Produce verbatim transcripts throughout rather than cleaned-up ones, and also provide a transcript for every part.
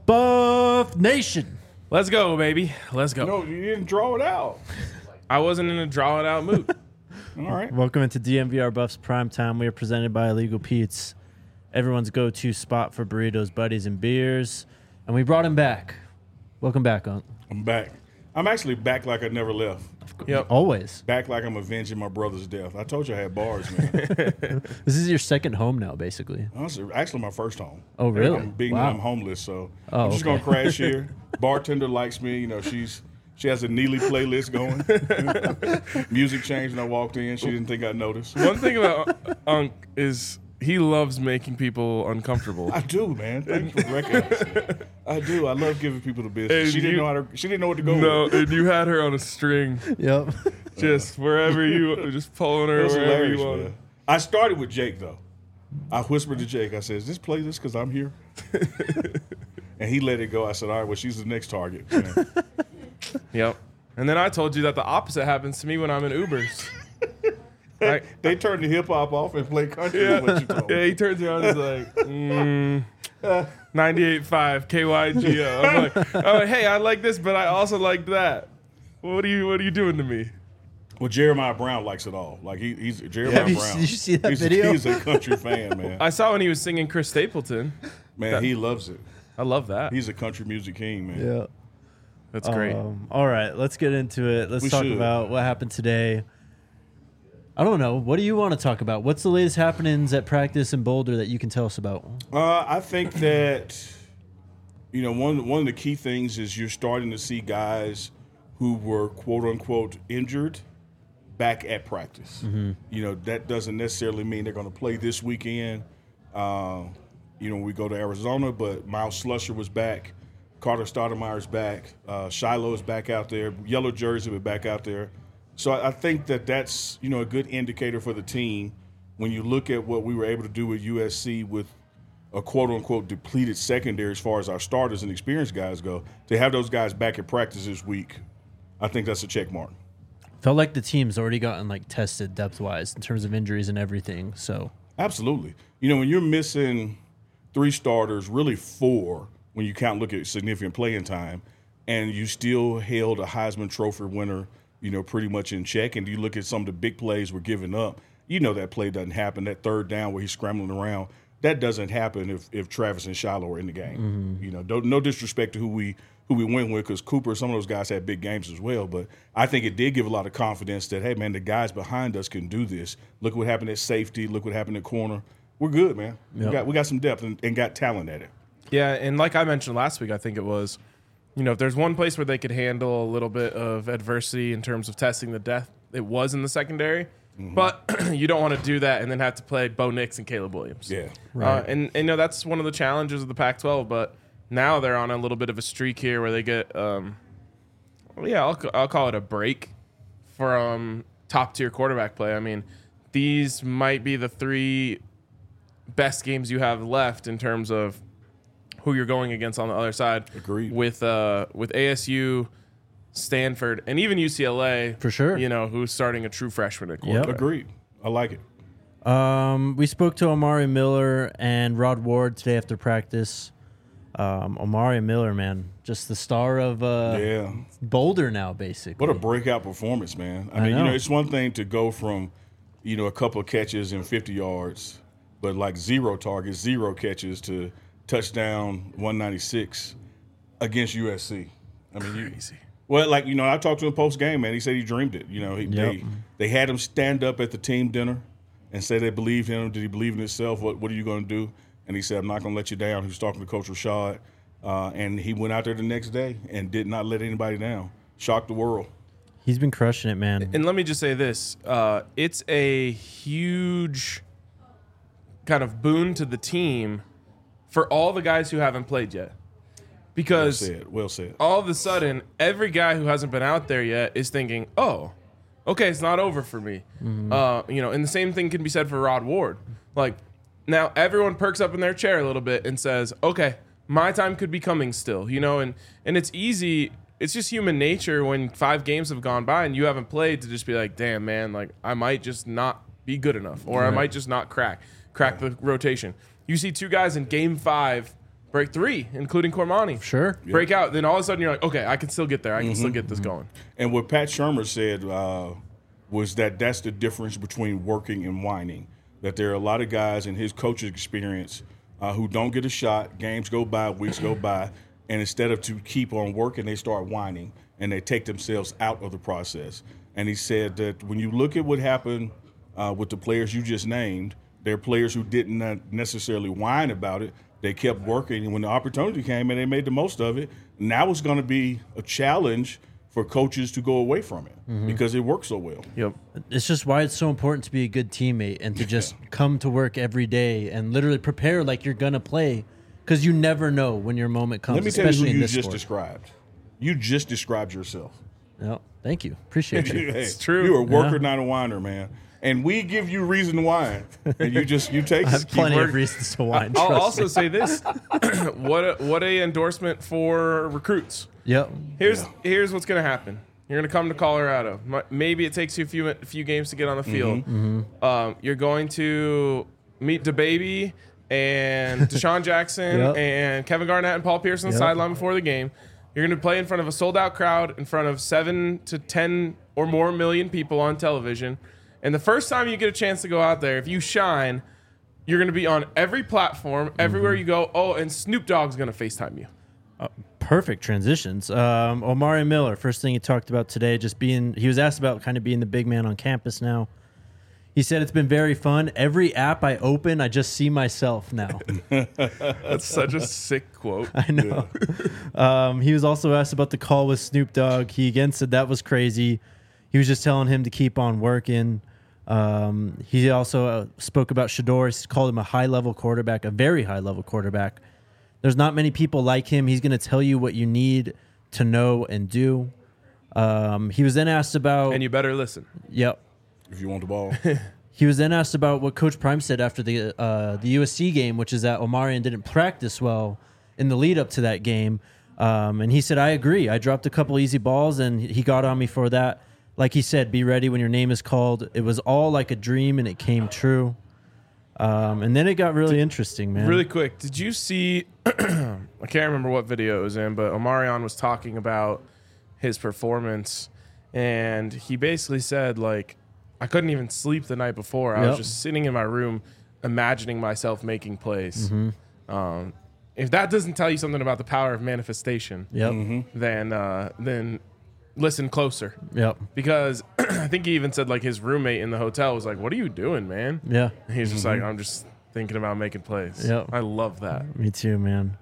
Buff Nation. Let's go, baby. Let's go. No, you didn't draw it out. I wasn't in a draw it out mood. All right. Welcome into D M V R Buffs Prime Time. We are presented by Illegal Pete's, everyone's go-to spot for burritos, buddies, and beers. And we brought him back. Welcome back, Unc. I'm back. I'm actually back like I never left. Yep. Always. Back like I'm avenging my brother's death. I told you I had bars, man. This is your second home now, basically. Honestly, actually my first home. Oh, really? I'm being Wow. I'm homeless, so Oh, I'm just okay. gonna crash here. Bartender likes me. You know, she's she has a Neely playlist going. Music changed when I walked in. She didn't think I'd notice. One thing about Unc is he loves making people uncomfortable. I do, man. Thanks for recognizing. I do. I love giving people the business. And She didn't you- know how to. She didn't know what to go No, with. and you had her on a string, Yep. just wherever you, just pulling her It was wherever hilarious, you want. man. I started with Jake though. I whispered to Jake. I said, "Is this playlist because I'm here?" And he let it go. I said, "All right, well, she's the next target." Man. Yep. And then I told you that the opposite happens to me when I'm in Ubers. I, They turned the hip hop off and play country. yeah, Is what you told yeah, me. he turns around and is like, mm, ninety-eight point five K Y G O. I'm like, I'm like, hey, I like this, but I also like that. What are you What are you doing to me? Well, Jeremiah Brown likes it all. Like he, he's Jeremiah Have you- Brown. did you see that he's, video? He's a country fan, man. I saw when he was singing Chris Stapleton. Man, he loves it. I love that. He's a country music king, man. Yeah. That's great. Um, all right, let's get into it. Let's We talk should. about what happened today. I don't know. What do you want to talk about? What's the latest happenings at practice in Boulder that you can tell us about? Uh, I think that you know one one of the key things is you're starting to see guys who were quote unquote injured back at practice. You know that doesn't necessarily mean they're going to play this weekend. Uh, you know, we go to Arizona, but Miles Slusher was back. Carter Stoudemire's back. Uh, Shiloh's back out there. Yellow Jersey was back out there. So I I think that that's, you know, a good indicator for the team when you look at what we were able to do with U S C with a quote-unquote depleted secondary as far as our starters and experienced guys go. To have those guys back at practice this week, I think that's a check mark. Felt like the team's already gotten like tested depth-wise in terms of injuries and everything. So Absolutely. You know, when you're missing three starters, really four, when you count look at significant playing time, and you still held a Heisman Trophy winner, you know, pretty much in check, and you look at some of the big plays we're giving up, you know that play doesn't happen. That third down where he's scrambling around, that doesn't happen if, if Travis and Shiloh are in the game. You know, don't, no disrespect to who we who we went with, because Cooper, some of those guys had big games as well, but I think it did give a lot of confidence that, hey, man, the guys behind us can do this. Look what happened at safety. Look what happened at corner. We're good, man. Yep. We got we got some depth and, and got talent at it. Yeah, and like I mentioned last week, I think it was, you know, if there's one place where they could handle a little bit of adversity in terms of testing the depth, it was in the secondary. But you don't want to do that and then have to play Bo Nix and Caleb Williams. Yeah. Uh, and, and, you know, that's one of the challenges of the Pac twelve, but now they're on a little bit of a streak here where they get, um, well, yeah, I'll, I'll call it a break from top-tier quarterback play. I mean, these might be the three best games you have left in terms of who you're going against on the other side. Agreed. With uh, with A S U, Stanford, and even U C L A. For sure. You know, who's starting a true freshman at Yep. quarterback. Agreed. I like it. Um, we spoke to Omari Miller and Rod Ward today after practice. Um, Omari Miller, man, just the star of uh, Yeah. Boulder now, basically. What a breakout performance, man. I, I mean, you know. know, it's one thing to go from, you know, a couple of catches and fifty yards, but like zero targets, zero catches to touchdown one ninety-six against U S C. I mean, you, Crazy. well, like, you know, I talked to him post game, man. He said he dreamed it. You know, he, Yep. they they had him stand up at the team dinner and say they believed in him. Did he believe in himself? What What are you going to do? And he said, I'm not going to let you down. He was talking to Coach Rashad, uh, and he went out there the next day and did not let anybody down. Shocked the world. He's been crushing it, man. And let me just say this. Uh, it's a huge kind of boon to the team for all the guys who haven't played yet. Well Because said. Well said. all of a sudden, every guy who hasn't been out there yet is thinking, oh, okay, it's not over for me. Uh, you know, and the same thing can be said for Rod Ward. Like, now everyone perks up in their chair a little bit and says, okay, my time could be coming still, you know, and, and it's easy. It's just human nature when five games have gone by and you haven't played to just be like, damn, man, like I might just not be good enough or I might just not crack, crack the rotation. You see two guys in game five break three, including Cormani. Sure. Break out. Then all of a sudden you're like, okay, I can still get there. I can still get this going. And what Pat Shermer said uh, was that that's the difference between working and whining. That there are a lot of guys in his coach's experience uh, who don't get a shot. Games go by, weeks go by, and instead of to keep on working, they start whining and they take themselves out of the process. And he said that when you look at what happened uh, with the players you just named, there are players who didn't necessarily whine about it. They kept working, and when the opportunity came and they made the most of it, now it's going to be a challenge for coaches to go away from it mm-hmm. because it works so well. Yep. It's just why it's so important to be a good teammate and to just come to work every day and literally prepare like you're going to play, because you never know when your moment comes. Let me tell you especially who in you this just sport. described. You just described yourself. No, thank you. Appreciate you. Hey, It's true. You're a worker, Yeah. not a whiner, man. And we give you reason to whine, and you just you take I have it. plenty work- of reasons to whine. I'll trust also me. say this: what a, what a endorsement for recruits. Yep. Here's Yeah. here's what's gonna happen. You're gonna come to Colorado. M- Maybe it takes you a few a few games to get on the field. Mm-hmm. Um, you're going to meet DeBaby and Deshaun Jackson Yep. and Kevin Garnett and Paul Pierce on the Yep. sideline before the game. You're gonna play in front of a sold out crowd, in front of seven to ten or more million people on television. And the first time you get a chance to go out there, if you shine, you're gonna be on every platform, everywhere Mm-hmm. you go. Oh, and Snoop Dogg's gonna FaceTime you. Perfect transitions. Um, Omari Miller, first thing he talked about today, just being, he was asked about kind of being the big man on campus now. He said, it's been very fun. Every app I open, I just see myself now. That's such a sick quote. I know. Um, he was also asked about the call with Snoop Dogg. He again said that was crazy. He was just telling him to keep on working. Um, he also uh, spoke about Shador. He called him a high-level quarterback, a very high-level quarterback. There's not many people like him. He's going to tell you what you need to know and do. Um, he was then asked about... And you better listen. Yep. If you want the ball. He was then asked about what Coach Prime said after the uh, the U S C game, which is that Omarion didn't practice well in the lead up to that game. Um, and he said, I agree. I dropped a couple easy balls, and he got on me for that. Like he said, be ready when your name is called. It was all like a dream, and it came true. Um, and then it got really interesting, man. Really quick, did you see? I can't remember what video it was in, but Omarion was talking about his performance, and he basically said, like, I couldn't even sleep the night before. I Yep. was just sitting in my room, imagining myself making plays. Mm-hmm. Um, if that doesn't tell you something about the power of manifestation, Yep. then uh, then listen closer, Yep. because I think he even said, like, his roommate in the hotel was like, "What are you doing, man?" Yeah. And he's just like, "I'm just thinking about making plays." Yep. I love that. Me too, man.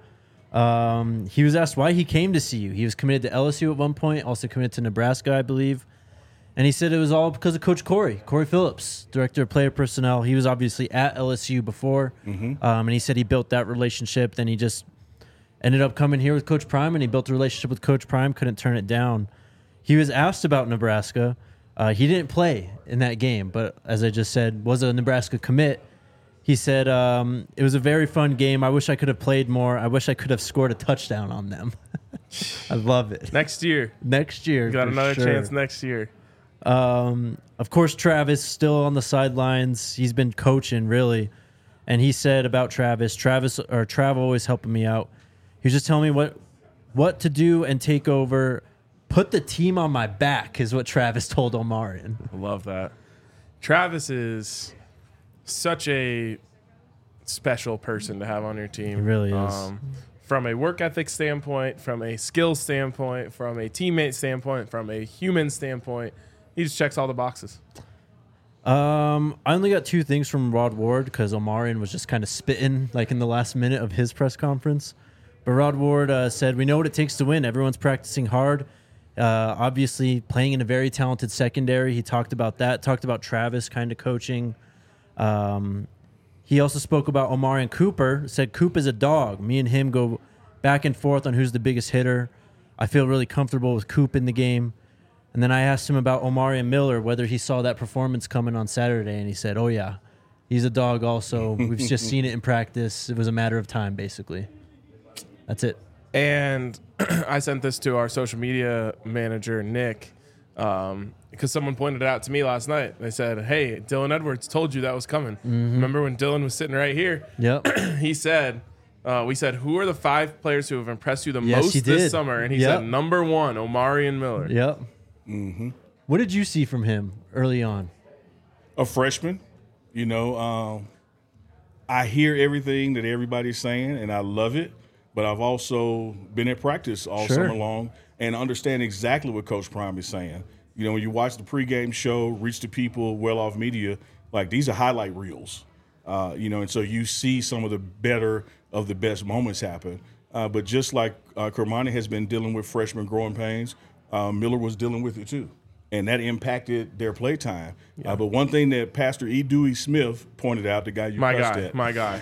Um, he was asked why he came to see you. He was committed to L S U at one point, also committed to Nebraska, I believe. And he said it was all because of Coach Corey, Corey Phillips, Director of Player Personnel. He was obviously at L S U before, Mm-hmm. um, and he said he built that relationship. Then he just ended up coming here with Coach Prime, and he built a relationship with Coach Prime, couldn't turn it down. He was asked about Nebraska. Uh, he didn't play in that game, but as I just said, was a Nebraska commit. He said, um, it was a very fun game. I wish I could have played more. I wish I could have scored a touchdown on them. I love it. Next year, Next year. you got for another sure. chance next year. Um, of course, Travis still on the sidelines. He's been coaching, really. And he said about Travis, Travis or Trav always helping me out. He was just telling me what what to do and take over. Put the team on my back is what Travis told Omarion. I love that. Travis is such a special person to have on your team. He really is. Um, from a work ethic standpoint, from a skill standpoint, from a teammate standpoint, from a human standpoint, he just checks all the boxes. Um, I only got two things from Rod Ward because Omarion was just kind of spitting like in the last minute of his press conference. But Rod Ward uh, said, we know what it takes to win. Everyone's practicing hard. Uh, obviously, playing in a very talented secondary. He talked about that. Talked about Travis kind of coaching. Um, he also spoke about Omarion Cooper. Said Coop is a dog. Me and him go back and forth on who's the biggest hitter. I feel really comfortable with Coop in the game. And then I asked him about Omarion Miller, whether he saw that performance coming on Saturday, and he said, oh, yeah, he's a dog also. We've just seen it in practice. It was a matter of time, basically. That's it. And I sent this to our social media manager, Nick, um, because someone pointed it out to me last night. They said, hey, Dylan Edwards told you that was coming. Mm-hmm. Remember when Dylan was sitting right here? Yep. He said, Uh, we said, who are the five players who have impressed you the Yes, most he this did. summer? And he Yep. said, number one, Omarion Miller. Yep. Mm-hmm. What did you see from him early on? A freshman, you know, um, I hear everything that everybody's saying, and I love it. But I've also been at practice all Sure. summer long and understand exactly what Coach Prime is saying. You know, when you watch the pregame show, Reach the People, Well Off Media, like these are highlight reels. Uh, you know, and so you see some of the better of the best moments happen. Uh, but just like uh, Kermani has been dealing with freshman growing pains, uh, Miller was dealing with it too. And that impacted their play time. Yeah. Uh, but one thing that Pastor E. Dewey Smith pointed out, the guy you My cussed guy, at, my guy.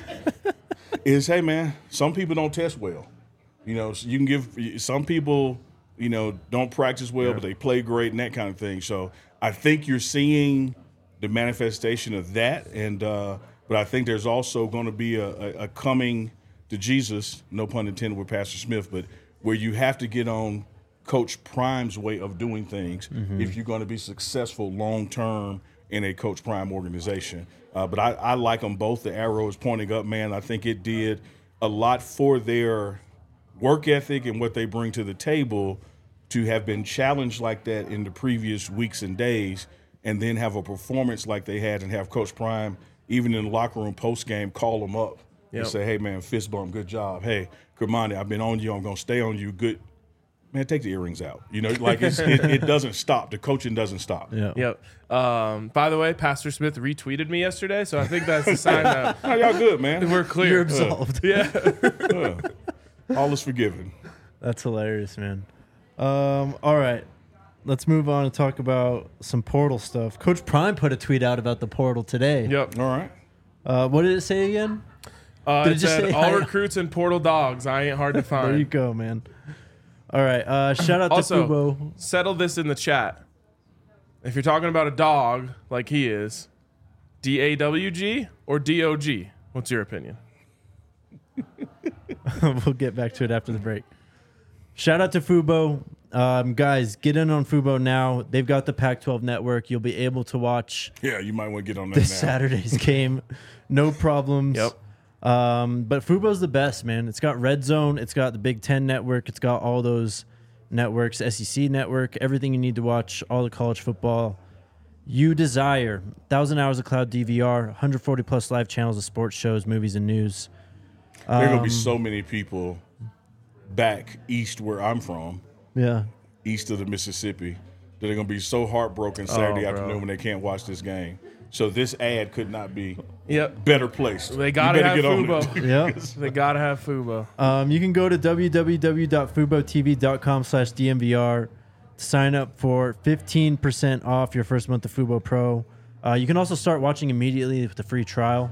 is, hey, man, some people don't test well. You know, so you can give – some people, you know, don't practice well, Yeah. but they play great and that kind of thing. So I think you're seeing the manifestation of that. And uh, but I think there's also going to be a, a, a coming to Jesus, no pun intended with Pastor Smith, but where you have to get on Coach Prime's way of doing things mm-hmm. if you're going to be successful long-term in a Coach Prime organization. Uh, but I, I like them both. The arrow is pointing up, man. I think it did a lot for their work ethic and what they bring to the table to have been challenged like that in the previous weeks and days and then have a performance like they had and have Coach Prime, even in the locker room post-game, call them up yep. and say, hey, man, fist bump, good job. Hey, Kermani, I've been on you. I'm going to stay on you. Good. Man, take the earrings out. You know, like it's, it, it doesn't stop. The coaching doesn't stop. Yeah. Yep. Um, by the way, Pastor Smith retweeted me yesterday, so I think that's a sign that oh, y'all good, man. we're clear. You're absolved. Uh, yeah. uh, all is forgiven. That's hilarious, man. Um, all right. Let's move on and talk about some portal stuff. Coach Prime put a tweet out about the portal today. Yep. All right. Uh, what did it say again? Uh, Did it it just said, say all hi? recruits and portal dogs. I ain't hard to find. There you go, man. All right. Uh, shout out Also, to Fubo. settle this in the chat. If you're talking about a dog like he is, D A W G or D O G? What's your opinion? We'll get back to it after the break. Shout out to Fubo. Um, guys, get in on Fubo now. They've got the Pac twelve network. You'll be able to watch Yeah, you might want to get on that this now. Saturday's game. No problems. Yep. Um, but Fubo's the best, man. It's got Red Zone. It's got the Big Ten network. It's got all those networks, S E C network, everything you need to watch, all the college football you desire. one thousand hours of cloud D V R, one hundred forty plus live channels of sports shows, movies, and news. There are going to be Um, so many people back east where I'm from, Yeah. east of the Mississippi, that are going to be so heartbroken Saturday Oh, afternoon bro. when they can't watch this game. So this ad could not be Yep. better placed. They You gotta better have get on Fubo. it. Yeah. They gotta have Fubo. Um, you can go to w w w dot fubo t v dot com slash d m v r to sign up for fifteen percent off your first month of Fubo Pro. Uh, you can also start watching immediately with the free trial.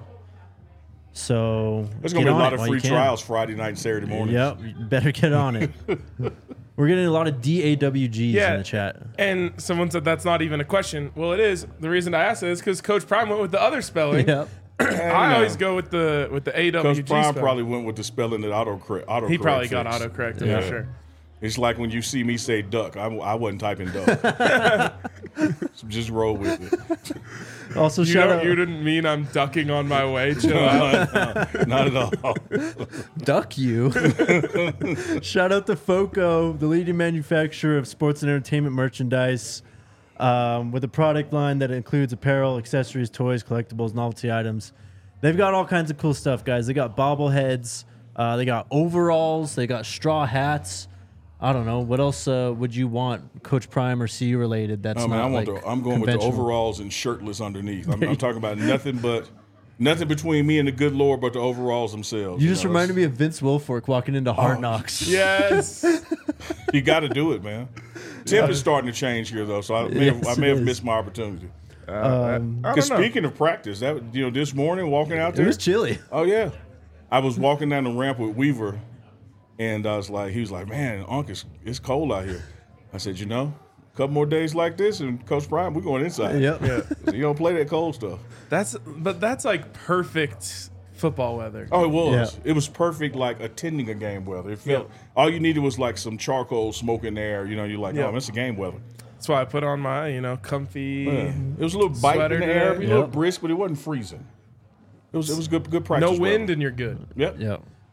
So There's going to get be a on lot it of while free you can. trials Friday night and Saturday morning. Yep, you better get on it. We're getting a lot of D A W Gs Yeah. in the chat. And someone said that's not even a question. Well, it is. The reason I asked it is because Coach Prime went with the other spelling. Yep. I know. always go with the with the A W G Coach Prime spelling. probably went with the spelling that auto auto he probably got autocorrect Yeah. for sure. It's like when you see me say duck, I, I wasn't typing duck. So just roll with it. Also, You, shout don't, out you didn't mean I'm ducking on my way. Chill out. Not at all. Duck you. Shout out to Foco, the leading manufacturer of sports and entertainment merchandise, um, with a product line that includes apparel, accessories, toys, collectibles, novelty items. They've got all kinds of cool stuff, guys. They got bobbleheads. Uh, they got overalls. They got straw hats. I don't know. What else uh, would you want, Coach Prime or C related? That's I mean, not I want like the, I'm going with the conventional? overalls and shirtless underneath. I'm, I'm talking about nothing but nothing between me and the good Lord but the overalls themselves. You just reminded me of Vince Wilfork walking into Hard Oh, Knocks. Yes. You got to do it, man. Temp is starting to change here, though, so I may have, Yes, I may it have is. missed my opportunity. Uh, Um, I don't Because know. speaking of practice, that you know, this morning walking out It there, was chilly. oh yeah, I was walking down the ramp with Weaver, and I was like, he was like, man, Unc, it's, it's cold out here. I said, you know, a couple more days like this, and Coach Prime, we're going inside. Yep. Yeah. So you don't play that cold stuff. That's but that's like perfect football weather. Oh, it was. Yeah. It was perfect, like attending a game weather. It felt Yeah. all you needed was like some charcoal smoke in there. You know, you're like, Yeah. oh, it's a game weather. That's why I put on my, you know, comfy. Yeah. It was a little bite Sweater in the air, today. a little Yep. brisk, but it wasn't freezing. It was it was good good practice. No wind weather. and you're good. Yep. Yep.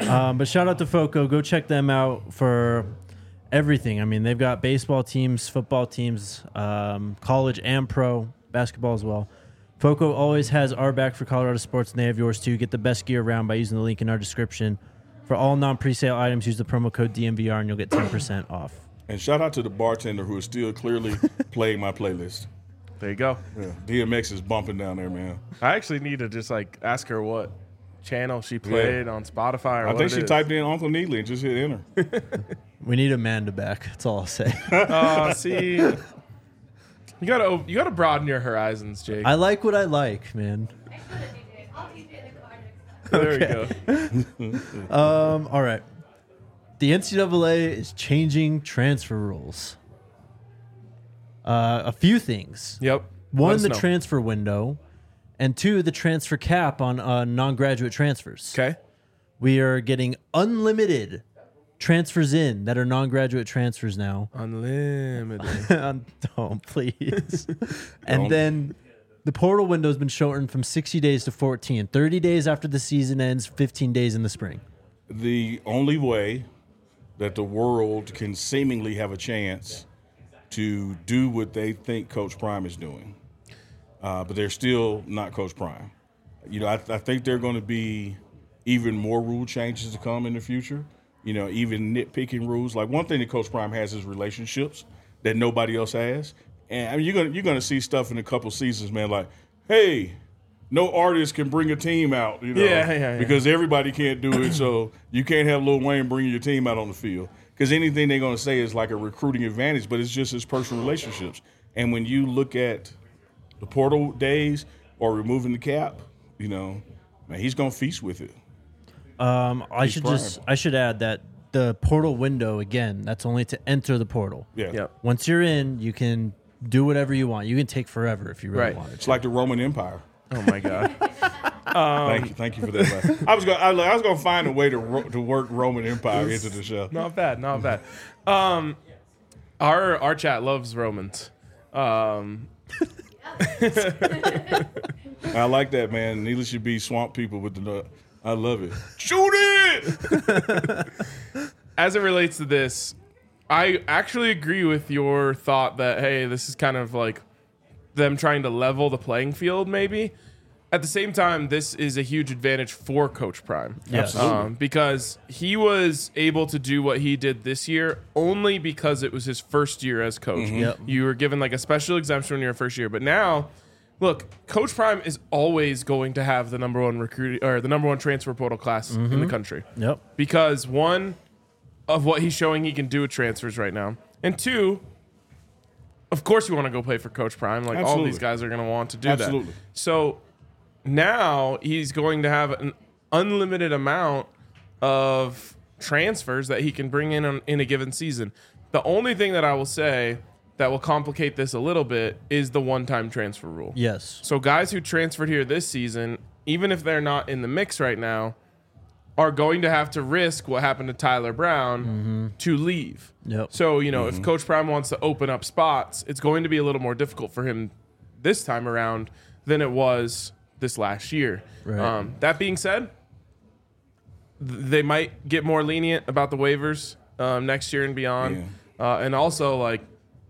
Um, but shout out to Foco. Go check them out for everything. I mean, they've got baseball teams, football teams, um, college and pro, basketball as well. Foco always has our back for Colorado sports, and they have yours too. Get the best gear around by using the link in our description. For all non-presale items, use the promo code D M V R and you'll get ten percent off. And shout out to the bartender who is still clearly playing my playlist. There you go. Yeah, D M X is bumping down there, man. I actually need to just like ask her what channel she played Yeah. on Spotify. Or I what think it she is. typed in Uncle Needley and just hit enter. We need Amanda back. That's all I'll say. Oh, see, you gotta you gotta broaden your horizons, Jake. I like what I like, man. There we go. Um, all right. The N C double A is changing transfer rules. Uh, a few things. Yep. Let One, us the know. transfer window, and two, the transfer cap on uh, non-graduate transfers. Okay. We are getting unlimited transfers in that are non-graduate transfers now. Unlimited. Don't, please. And then the portal window has been shortened from sixty days to fourteen. thirty days after the season ends, fifteen days in the spring. The only way that the world can seemingly have a chance to do what they think Coach Prime is doing, uh, but they're still not Coach Prime. You know, I, I think there are going to be even more rule changes to come in the future. You know, even nitpicking rules. Like one thing that Coach Prime has is relationships that nobody else has. And I mean, you're gonna you're gonna see stuff in a couple seasons, man. Like, hey, no artist can bring a team out, you know, Yeah, yeah, yeah. because everybody can't do it. So you can't have Lil Wayne bringing your team out on the field because anything they're gonna say is like a recruiting advantage, but it's just his personal relationships. And when you look at the portal days or removing the cap, you know, man, he's gonna feast with it. Um, I He's should prime. just I should add that the portal window again. That's only to enter the portal. Yeah, Yep. Once you're in, you can do whatever you want. You can take forever if you really Right. want it. it's like the Roman Empire. Oh my God. thank you, thank you for that. laugh. I was gonna, I, I was gonna find a way to ro- to work Roman Empire into the show. Not bad. Not bad. Um, our our chat loves Romans. Um, I like that, man. Needless should be swamp people with the nut. I love it. Shoot it! as it relates to this, I actually agree with your thought that, hey, this is kind of like them trying to level the playing field, maybe. At the same time, this is a huge advantage for Coach Prime. Yes. Um, because he was able to do what he did this year only because it was his first year as coach. Yep. You were given like a special exemption when you're first year. But now, look, Coach Prime is always going to have the number one recruit or the number one transfer portal class in the country. Yep. Because one, of what he's showing he can do with transfers right now. And two, of course you want to go play for Coach Prime. Like all Absolutely. these guys are going to want to do Absolutely. that. So now he's going to have an unlimited amount of transfers that he can bring in on, in a given season. The only thing that I will say that will complicate this a little bit is the one-time transfer rule. Yes. So guys who transferred here this season, even if they're not in the mix right now, are going to have to risk what happened to Tyler Brown to leave. Yep. So, you know, if Coach Prime wants to open up spots, it's going to be a little more difficult for him this time around than it was this last year. Right. Um, that being said, th- they might get more lenient about the waivers um, next year and beyond. Uh, and also, like,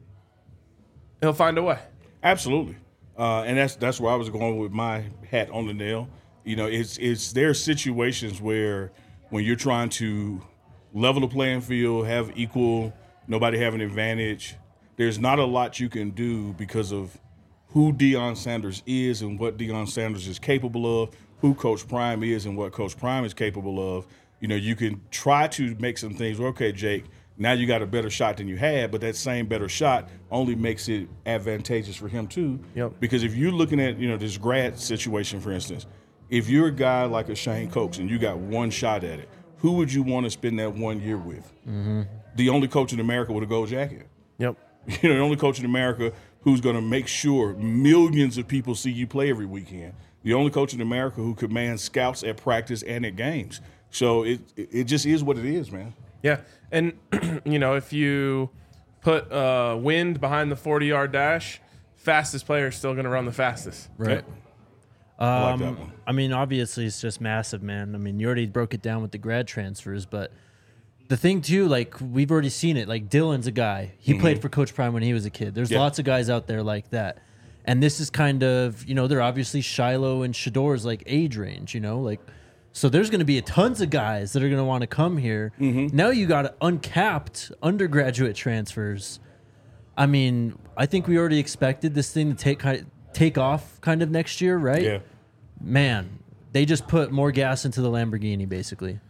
he'll find a way. Absolutely, uh, and that's that's where I was going with my hat on the nail. You know, it's it's there are situations where when you're trying to level the playing field, have equal, nobody have an advantage. There's not a lot you can do because of who Deion Sanders is and what Deion Sanders is capable of, who Coach Prime is and what Coach Prime is capable of. You know, you can try to make some things. Well, okay, Jake, now you got a better shot than you had, but that same better shot only makes it advantageous for him too. Yep. Because if you're looking at, you know, this grad situation, for instance, if you're a guy like a Shane Coates and you got one shot at it, who would you want to spend that one year with? Mm-hmm. The only coach in America with a gold jacket. Yep. You know, the only coach in America who's going to make sure millions of people see you play every weekend. The only coach in America who commands scouts at practice and at games. So it it just is what it is, man. Yeah, and you know, if you put uh, wind behind the forty-yard dash, fastest player is still going to run the fastest. Right. I like that Um, one. I mean, obviously, it's just massive, man. I mean, you already broke it down with the grad transfers, but the thing too, like we've already seen it. Like Dylan's a guy. He played for Coach Prime when he was a kid. There's Mm-hmm. Yeah. lots of guys out there like that, and this is kind of, you know, they're obviously Shiloh and Shador's like age range, you know, like so there's going to be tons of guys that are going to want to come here. Mm-hmm. Now you got uncapped undergraduate transfers. I mean, I think we already expected this thing to take kind of, take off kind of next year, right? Yeah. Man, they just put more gas into the Lamborghini, basically.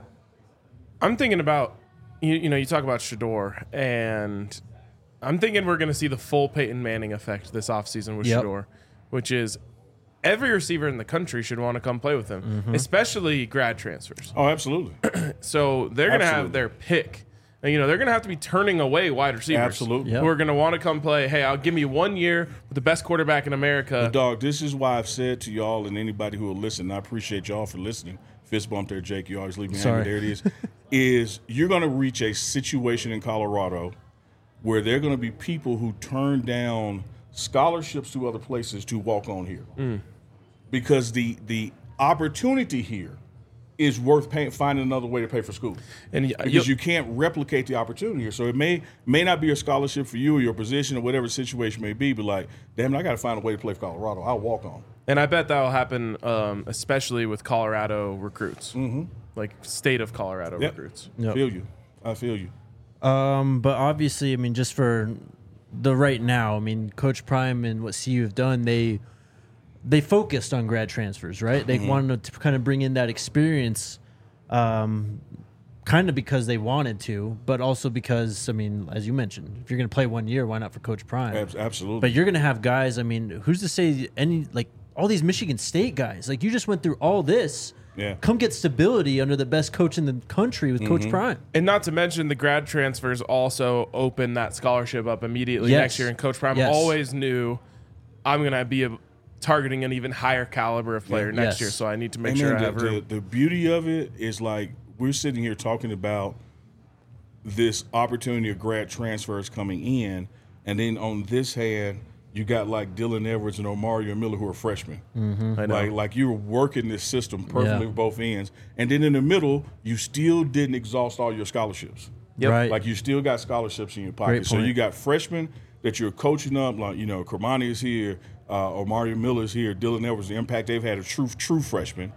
I'm thinking about, you, you know, you talk about Shador, and I'm thinking we're going to see the full Peyton Manning effect this offseason with Yep. Shador, which is every receiver in the country should want to come play with him, especially grad transfers. Oh, absolutely. So they're going to have Absolutely. their pick. And, you know, they're going to have to be turning away wide receivers. Absolutely. Yep. Who are going to want to come play, hey, I'll give me one year with the best quarterback in America. Dog, this is why I've said to y'all and anybody who will listen, I appreciate y'all for listening. Fist bump there, Jake. You always leave me Sorry. hanging. There it is. Is you're going to reach a situation in Colorado where there are going to be people who turn down scholarships to other places to walk on here. Mm. Because the the opportunity here is worth paying, finding another way to pay for school. And y- because you'll- you can't replicate the opportunity here. So it may may not be a scholarship for you or your position or whatever the situation may be, but like, damn it, I got to find a way to play for Colorado. I'll walk on. And I bet that will happen, um, especially with Colorado recruits, mm-hmm. like state of Colorado Yep. recruits. Yep. Feel you. I feel you. Um, but obviously, I mean, just for the right now, I mean, Coach Prime and what C U have done, they they focused on grad transfers, right? They wanted to kind of bring in that experience, um, kind of because they wanted to, but also because, I mean, as you mentioned, if you're going to play one year, why not for Coach Prime? Abs- Absolutely. But you're going to have guys, I mean, who's to say any, like, all these Michigan State guys, like, you just went through all this. Yeah. Come get stability under the best coach in the country with Coach Prime. And not to mention the grad transfers also open that scholarship up immediately Yes. next year. And Coach Prime Yes. always knew I'm going to be a, targeting an even higher caliber of player Yeah. next Yes. year. So I need to make And sure then I the, have room. the, the beauty of it is like we're sitting here talking about this opportunity of grad transfers coming in, and then on this hand, you got like Dylan Edwards and Omario Miller who are freshmen. I know. Like like you're working this system perfectly Yeah. with both ends, and then in the middle, you still didn't exhaust all your scholarships. Yep. Right. Like you still got scholarships in your pocket. Great So point. you got freshmen that you're coaching up, like, you know, Kermani is here, uh, Omario Miller is here, Dylan Edwards, the impact they've had a true, true freshman.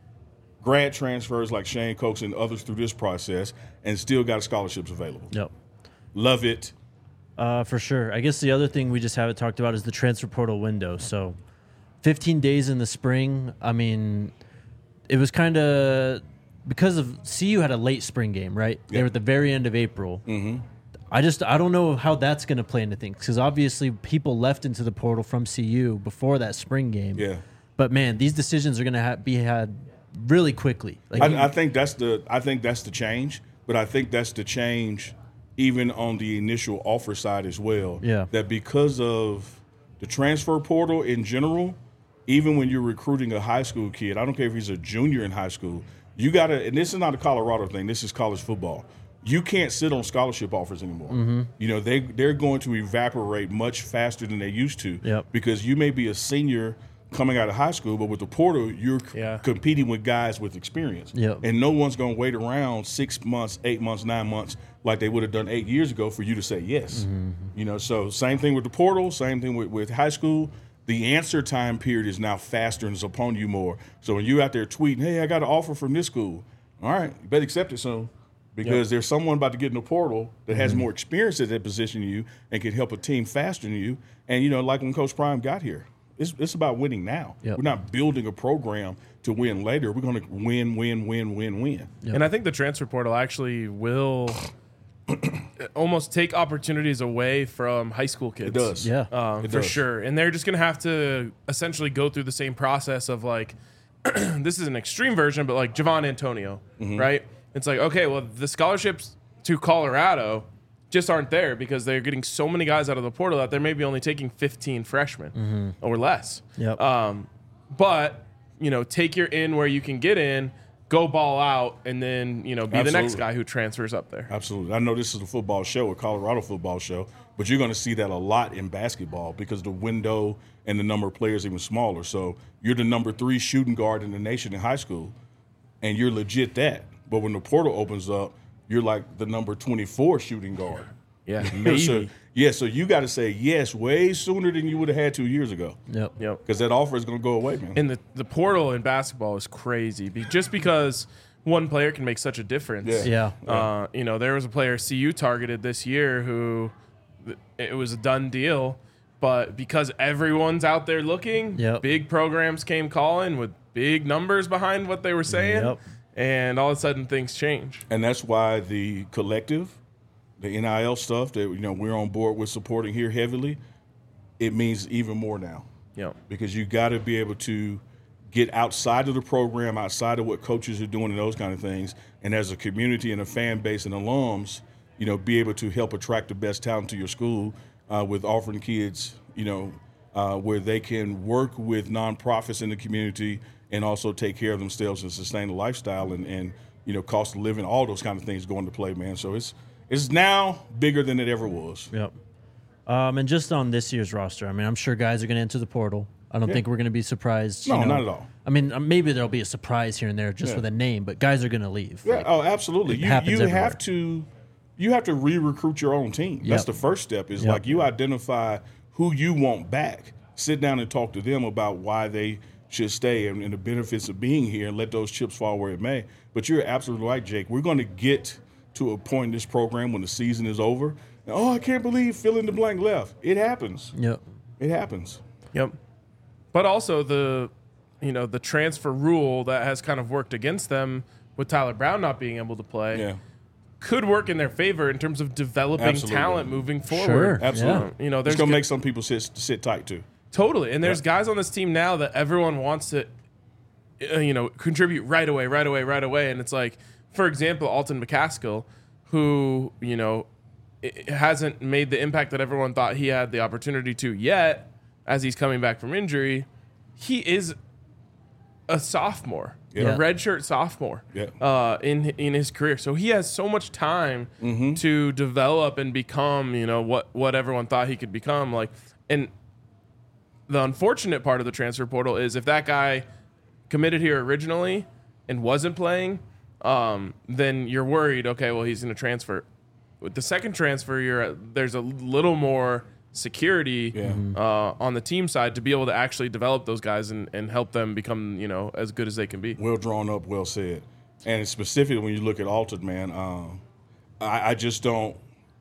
Grad transfers like Shane Cokes and others through this process, and still got scholarships available. Yep. Love it. Uh, for sure. I guess the other thing we just haven't talked about is the transfer portal window. So, fifteen days in the spring. I mean, it was kind of because of C U had a late spring game, right? They Yeah. were at the very end of April. Mm-hmm. I just I don't know how that's going to play into things because obviously people left into the portal from C U before that spring game. Yeah. But man, these decisions are going to ha- be had really quickly. Like I, I think that's the I think that's the change, but I think that's the change even on the initial offer side as well. Yeah. That because of the transfer portal in general, even when you're recruiting a high school kid, I don't care if he's a junior in high school, you gotta, and this is not a Colorado thing, this is college football. You can't sit on scholarship offers anymore. Mm-hmm. You know, they they're going to evaporate much faster than they used to. Yep. Because you may be a senior coming out of high school, but with the portal, you're c- Yeah. competing with guys with experience. Yep. And no one's going to wait around six months, eight months, nine months like they would have done eight years ago for you to say yes. Mm-hmm. You know, so same thing with the portal, same thing with, with high school. The answer time period is now faster and is upon you more. So when you're out there tweeting, hey, I got an offer from this school, all right, you better accept it soon. Because there's someone about to get in the portal that has Mm-hmm. more experience at that position than you and can help a team faster than you. And, you know, like when Coach Prime got here, it's, it's about winning now. Yep. We're not building a program to win later. We're going to win, win, win, win, win. And I think the transfer portal actually will almost take opportunities away from high school kids. It does. Yeah. Um, It for does. sure. And they're just going to have to essentially go through the same process of like, this is an extreme version, but like Javon Antonio, Mm-hmm. right? It's like, okay, well, the scholarships to Colorado just aren't there because they're getting so many guys out of the portal that they're maybe only taking fifteen freshmen or less. Yep. Um, but, you know, take your in where you can get in go ball out and then, you know, be Absolutely. the next guy who transfers up there. Absolutely. I know this is a football show, a Colorado football show, but you're going to see that a lot in basketball because the window and the number of players even smaller. So you're the number three shooting guard in the nation in high school, and you're legit that. But when the portal opens up, you're like the number twenty-four shooting guard. Yeah, maybe. so, yeah, so you got to say yes way sooner than you would have had two years ago. Yep. Yep. Because that offer is going to go away, man. And the, the portal in basketball is crazy be, just because one player can make such a difference. Yeah. Yeah. Uh, you know, there was a player C U targeted this year who it was a done deal, but because everyone's out there looking, Yep. big programs came calling with big numbers behind what they were saying, Yep. and all of a sudden things change. And that's why the collective, the N I L stuff that you know we're on board with supporting here heavily, it means even more now. Yeah. Because you got to be able to get outside of the program, outside of what coaches are doing and those kind of things, and as a community and a fan base and alums, you know, be able to help attract the best talent to your school uh, with offering kids, you know, uh, where they can work with nonprofits in the community and also take care of themselves and sustain a lifestyle and, and you know, cost of living, all those kind of things go into play, man. So it's it's now bigger than it ever was. Yep. Um, and just on this year's roster, I mean, I'm sure guys are going to enter the portal. I don't Yeah. think we're going to be surprised. No, you know. not at all. I mean, uh, maybe there'll be a surprise here and there just Yeah. with a name, but guys are going to leave. Yeah, Like, oh, absolutely. it You happens you everywhere. have to you have to re-recruit your own team. That's Yep. the first step. Is Yep. like you identify who you want back. Sit down and talk to them about why they should stay and, and the benefits of being here, and let those chips fall where it may. But you're absolutely right, Jake. We're going to get to a point in this program when the season is over. And, oh, I can't believe fill in the blank left. It happens. Yep. It happens. Yep. But also the, you know, the transfer rule that has kind of worked against them with Tyler Brown not being able to play Yeah. could work in their favor in terms of developing Absolutely. talent moving forward. Sure. Absolutely. You know, It's there's going to g- make some people sit sit tight too. Totally. And there's Yeah. guys on this team now that everyone wants to, uh, you know, contribute right away, right away, right away. And it's like, for example, Alton McCaskill, who, you know, i- hasn't made the impact that everyone thought he had the opportunity to yet as he's coming back from injury. He is a sophomore, Yeah. a redshirt sophomore Yeah. uh, in in his career. So he has so much time Mm-hmm. to develop and become, you know, what what everyone thought he could become. Like, and the unfortunate part of the transfer portal is if that guy committed here originally and wasn't playing, um, then you're worried. Okay, well he's going to transfer. With the second transfer, you're at, there's a little more security Yeah. uh, on the team side to be able to actually develop those guys and, and help them become, you know, as good as they can be. Well drawn up, well said. And specifically when you look at Alton, man, um, I, I just don't,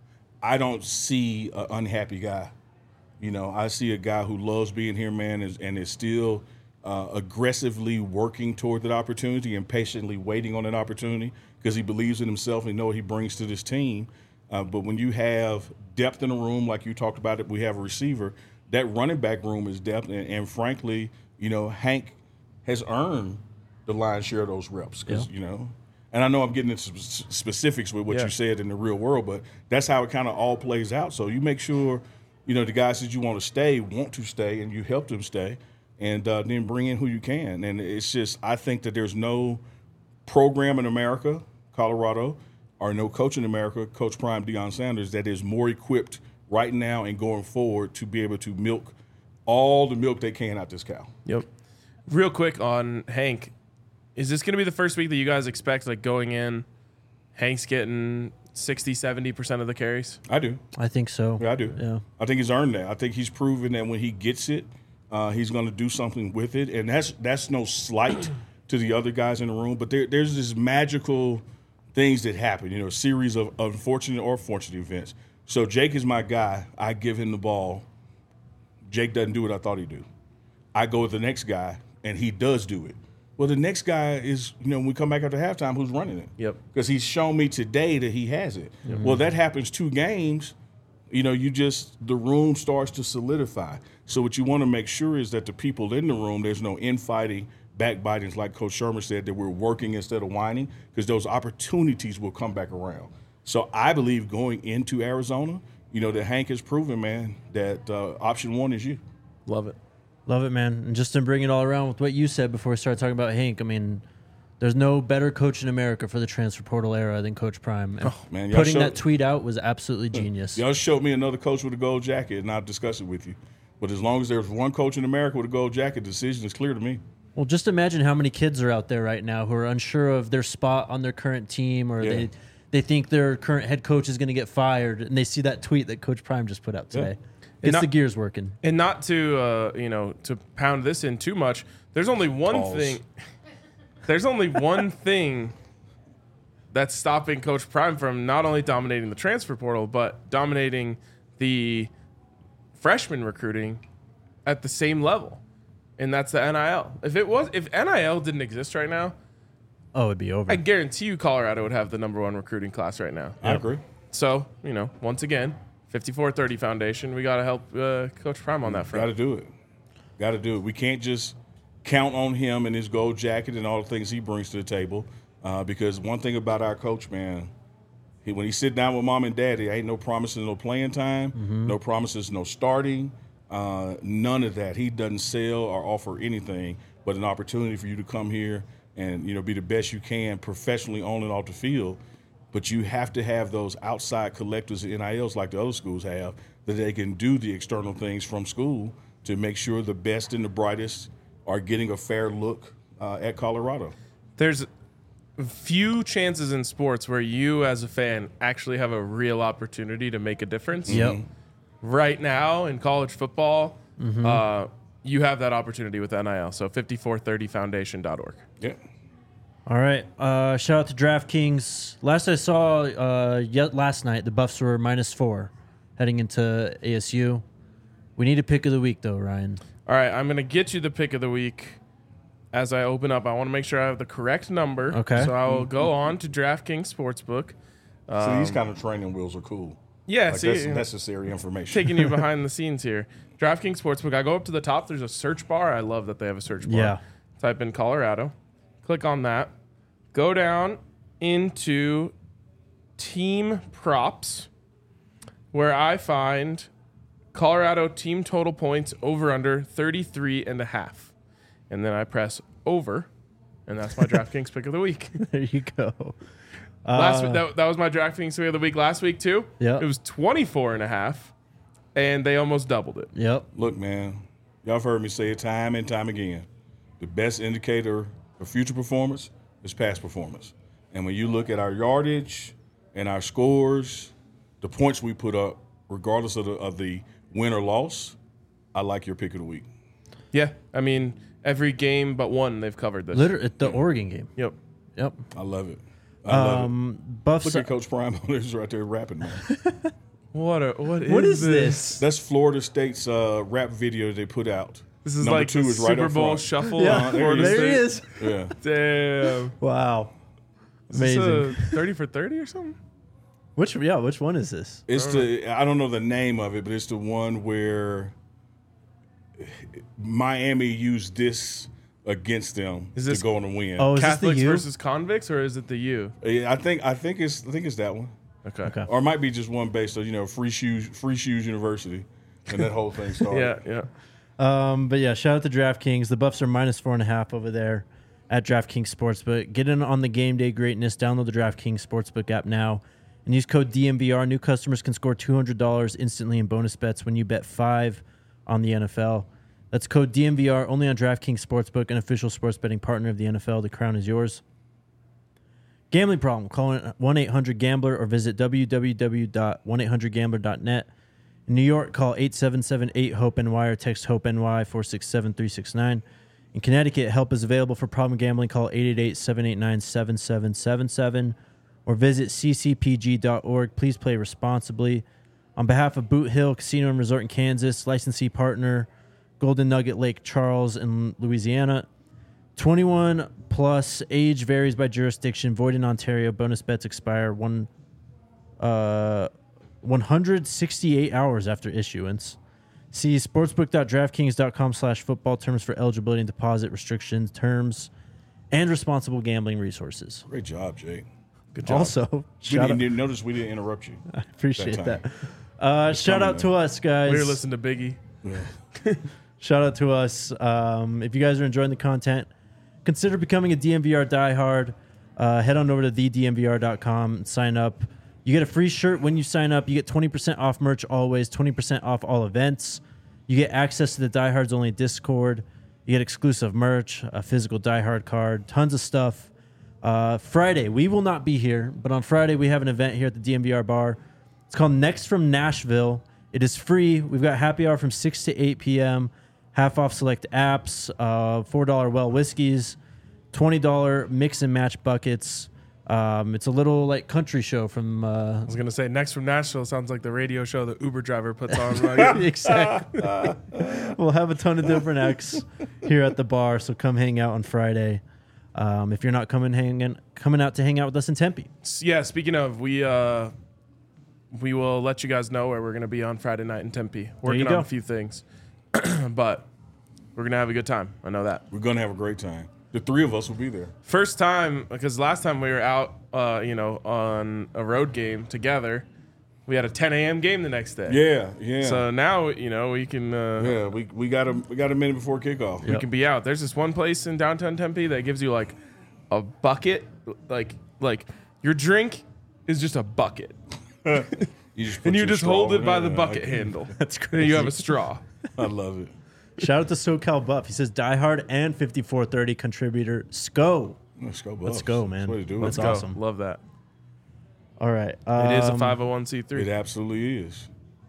I don't see an unhappy guy. You know, I see a guy who loves being here, man, is, and is still uh, aggressively working toward that opportunity and patiently waiting on that opportunity because he believes in himself and know what he brings to this team. Uh, but when you have depth in a room, like you talked about it, we have a receiver, that running back room is depth. And, and frankly, you know, Hank has earned the lion's share of those reps because, Yeah. you know, and I know I'm getting into sp- specifics with what Yeah. you said in the real world, but that's how it kind of all plays out. So you make sure, you know, the guys that you want to stay want to stay and you help them stay and uh, then bring in who you can. And it's just, I think that there's no program in America, Colorado, or no coach in America, Coach Prime Deion Sanders, that is more equipped right now and going forward to be able to milk all the milk they can out this cow. Yep. Real quick on Hank, is this going to be the first week that you guys expect, like going in, Hank's getting sixty, seventy percent of the carries? I do. I think so. Yeah, I do. Yeah. I think he's earned that. I think he's proven that when he gets it, uh, he's going to do something with it. And that's that's no slight to the other guys in the room. But there, there's this magical things that happen, you know, a series of unfortunate or fortunate events. So Jake is my guy. I give him the ball. Jake doesn't do what I thought he'd do. I go with the next guy, and he does do it. Well, the next guy is, you know, when we come back after halftime, who's running it? Yep. Because he's shown me today that he has it. Well, that happens two games. You know, you just, the room starts to solidify. So what you want to make sure is that the people in the room, there's no infighting, backbiting, like Coach Sherman said, that we're working instead of whining, because those opportunities will come back around. So I believe going into Arizona, you know, that Hank has proven, man, that uh, option one is you. Love it. Love it, man. And just to bring it all around with what you said before we started talking about Hank, I mean, There's no better coach in America for the transfer portal era than Coach Prime. And Oh, man, y'all putting showed- that tweet out was absolutely genius. Y'all showed me another coach with a gold jacket, and I'll discuss it with you. But as long as there's one coach in America with a gold jacket, the decision is clear to me. Well, just imagine how many kids are out there right now who are unsure of their spot on their current team, or Yeah. they they think their current head coach is going to get fired, and they see that tweet that Coach Prime just put out today. Gets not- the gears working. And not to uh, you know to pound this in too much. There's only one Pause. thing. There's only one thing that's stopping Coach Prime from not only dominating the transfer portal, but dominating the freshman recruiting at the same level, and that's the N I L. If it was, if N I L didn't exist right now, Oh, it'd be over. I guarantee you Colorado would have the number one recruiting class right now. I agree. So, you know, once again, fifty-four thirty Foundation, we got to help uh, Coach Prime on that Got front. to do it. Got to do it. We can't just count on him and his gold jacket and all the things he brings to the table. Uh, because one thing about our coach, man, he, when he sit down with mom and daddy, ain't no promises, no playing time, Mm-hmm. no promises, no starting, uh, none of that. He doesn't sell or offer anything but an opportunity for you to come here and, you know, be the best you can professionally on and off the field. But you have to have those outside collectors and N I Ls like the other schools have, that they can do the external things from school to make sure the best and the brightest are getting a fair look uh, at Colorado. There's few chances in sports where you, as a fan, actually have a real opportunity to make a difference. Yep. Right now in college football, Mm-hmm. uh, you have that opportunity with N I L. So fifty-four thirty foundation dot org. Yeah. All right. Uh, shout out to DraftKings. Last I saw, uh, yet last night, the Buffs were minus four heading into A S U. We need a pick of the week, though, Ryan. All right, I'm going to get you the pick of the week as I open up. I want to make sure I have the correct number. Okay. So I will go on to DraftKings Sportsbook. So these kind of training wheels are cool. Yeah, Like see, that's you know, necessary information. taking you behind the scenes here. DraftKings Sportsbook. I go up to the top. There's a search bar. I love that they have a search bar. Yeah. Type in Colorado. Click on that. Go down into team props, where I find Colorado team total points over under thirty-three and a half. And then I press over, and that's my DraftKings pick of the week. There you go. Last Uh, week, that, that was my DraftKings pick of the week last week too. Yep. It was twenty-four and a half, and they almost doubled it. Yep. Look, man, y'all have heard me say it time and time again. The best indicator of future performance is past performance. And when you look at our yardage and our scores, the points we put up, regardless of the, of the win or loss, I like your pick of the week. Yeah, I mean every game but one they've covered this. Literally, the Oregon game. Yep. Yep. I love it. I love it. Um, Buffs. Look at Coach Prime on this right there rapping, man. What a what is, What is this? this? That's Florida State's uh, rap video they put out. This is Number like two the is right Super up Bowl front. shuffle. Yeah, of there Florida he there State. he is. Yeah. Damn. Wow. Is this Amazing. a thirty for thirty or something? Which yeah, which one is this? It's the I don't know the name of it, but it's the one where Miami used this against them Is this- to go on and win. Oh, is Catholics this the U? versus convicts, or is it the U? Yeah, I think I think it's I think it's that one, Okay. Okay. or it might be just one based on you know Free Shoes Free Shoes University, and that whole thing started. Yeah, yeah. Um, but yeah, shout out to DraftKings. The Buffs are minus four and a half over there at DraftKings Sportsbook. Get in on the game day greatness. Download the DraftKings Sportsbook app now and use code D M V R. New customers can score two hundred dollars instantly in bonus bets when you bet five on the N F L. That's code D M V R only on DraftKings Sportsbook, an official sports betting partner of the N F L. The crown is yours. Gambling problem? Call one eight hundred gambler or visit w w w dot one eight hundred gambler dot net. In New York, call eight seven seven eight hope N Y or text HOPE N Y four six seven three six nine. In Connecticut, help is available for problem gambling. Call eight eight eight seven eight nine seven seven seven seven or visit c c p g dot org. Please play responsibly. On behalf of Boot Hill Casino and Resort in Kansas, licensee partner Golden Nugget Lake Charles in Louisiana. twenty-one plus, age varies by jurisdiction, void in Ontario. Bonus bets expire one uh, one hundred sixty-eight hours after issuance. See sportsbook dot draftkings dot com slash football terms for eligibility and deposit restrictions, terms, and responsible gambling resources. Great job, Jake. Good job. Also, We shout out, didn't notice we didn't interrupt you. I appreciate that that. time. Uh, shout coming, out to us, guys. we were listening to Biggie. Yeah. Shout out to us. Um, if you guys are enjoying the content, consider becoming a D M V R diehard. Uh, head on over to the d m v r dot com and sign up. You get a free shirt when you sign up. You get twenty percent off merch always, twenty percent off all events. You get access to the Diehards Only Discord. You get exclusive merch, a physical diehard card, tons of stuff. Uh, Friday, we will not be here, but on Friday we have an event here at the D M V R bar. It's called Next from Nashville. It is free. We've got happy hour from six to eight p.m., half off select apps, uh, four dollars well whiskeys, twenty dollars mix and match buckets. Um, it's a little like country show from. Uh, I was gonna say Next from Nashville sounds like the radio show the Uber driver puts on. Like, exactly. We'll have a ton of different acts here at the bar, so come hang out on Friday. Um, if you're not coming hanging, coming out to hang out with us in Tempe. yeah. Speaking of, we uh, we will let you guys know where we're gonna be on Friday night in Tempe. Working on go. a few things, but we're gonna have a good time. I know that. We're gonna have a great time. The three of us will be there. First time, because last time we were out, uh, you know, on a road game together, we had a ten a.m. game the next day. Yeah, yeah. So now, you know, we can uh, yeah, we we got a we got a minute before kickoff. we can be out. There's this one place in downtown Tempe that gives you like a bucket, like like your drink is just a bucket, You just put and you your just straw hold it in by there. the bucket handle. That's And crazy. you have a straw. I love it. Shout out to SoCal Buff. He says diehard and fifty-four thirty contributor Sco. Let's go, Buffs. Let's go, man. That's the way to do it. Let's Go. awesome. Love that. All right. It is a um, five oh one c It three. absolutely is.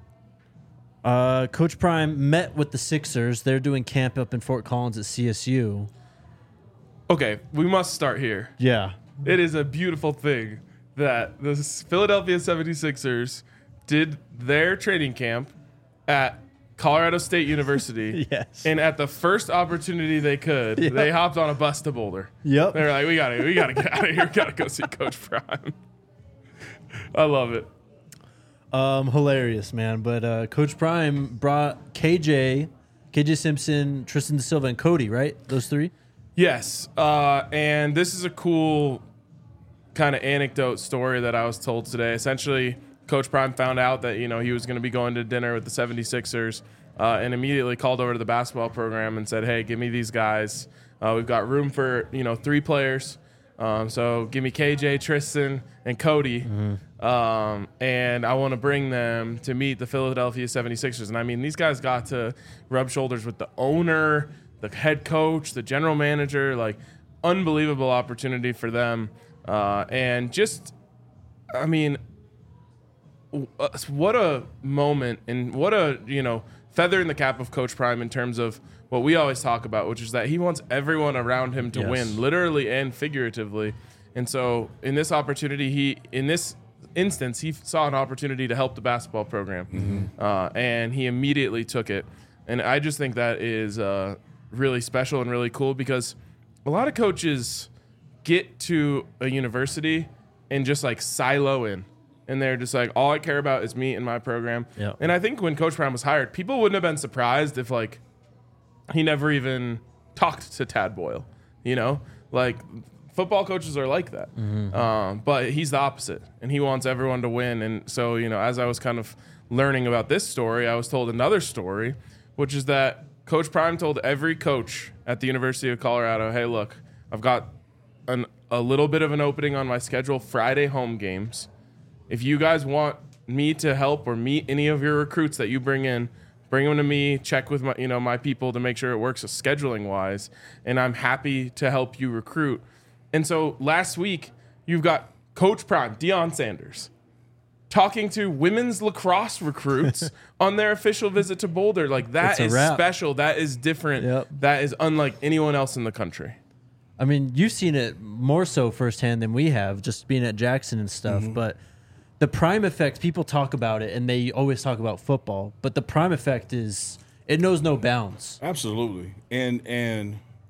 Uh, Coach Prime met with the Sixers. They're doing camp up in Fort Collins at C S U. Okay, we must start here. Yeah. It is a beautiful thing that the Philadelphia seventy-sixers did their training camp at Colorado State University. Yes. And at the first opportunity they could, Yep. they hopped on a bus to Boulder. Yep. They were like, we gotta we gotta get out of here. We gotta go see Coach Prime. I love it. Um, hilarious, man. But uh, Coach Prime brought K J, K J Simpson, Tristan Da Silva, and Cody, right? Those three? Yes. Uh, and this is a cool kind of anecdote story that I was told today. Essentially, Coach Prime found out that, you know, he was going to be going to dinner with the seventy-sixers uh, and immediately called over to the basketball program and said, hey, give me these guys. Uh, we've got room for, you know, three players. Um, so give me K J, Tristan, and Cody. Mm-hmm. Um, and I want to bring them to meet the Philadelphia seventy-sixers. And I mean, these guys got to rub shoulders with the owner, the head coach, the general manager, like unbelievable opportunity for them. Uh, and just, I mean, what a moment and what a, you know, feather in the cap of Coach Prime in terms of what we always talk about, which is that he wants everyone around him to Yes. win, literally and figuratively. And so in this opportunity, he, in this instance, he saw an opportunity to help the basketball program. Mm-hmm. Uh, and he immediately took it. And I just think that is uh, really special and really cool because a lot of coaches get to a university and just like silo in. And they're just like, all I care about is me and my program. Yep. And I think when Coach Prime was hired, people wouldn't have been surprised if like he never even talked to Tad Boyle. You know, like football coaches are like that. Mm-hmm. Um, but he's the opposite, and he wants everyone to win. And so, you know, as I was kind of learning about this story, I was told another story, which is that Coach Prime told every coach at the University of Colorado, hey, look, I've got an, a little bit of an opening on my schedule, Friday home games. If you guys want me to help or meet any of your recruits that you bring in, bring them to me, check with my, you know, my people to make sure it works scheduling wise. And I'm happy to help you recruit. And so last week, you've got Coach Prime, Deion Sanders, talking to women's lacrosse recruits on their official visit to Boulder. Like that It's a is wrap. special. That is different. Yep. That is unlike anyone else in the country. I mean, you've seen it more so firsthand than we have, just being at Jackson and stuff. Mm-hmm. But the Prime effect, people talk about it, and they always talk about football. But the Prime effect is, it knows no bounds. Absolutely, and and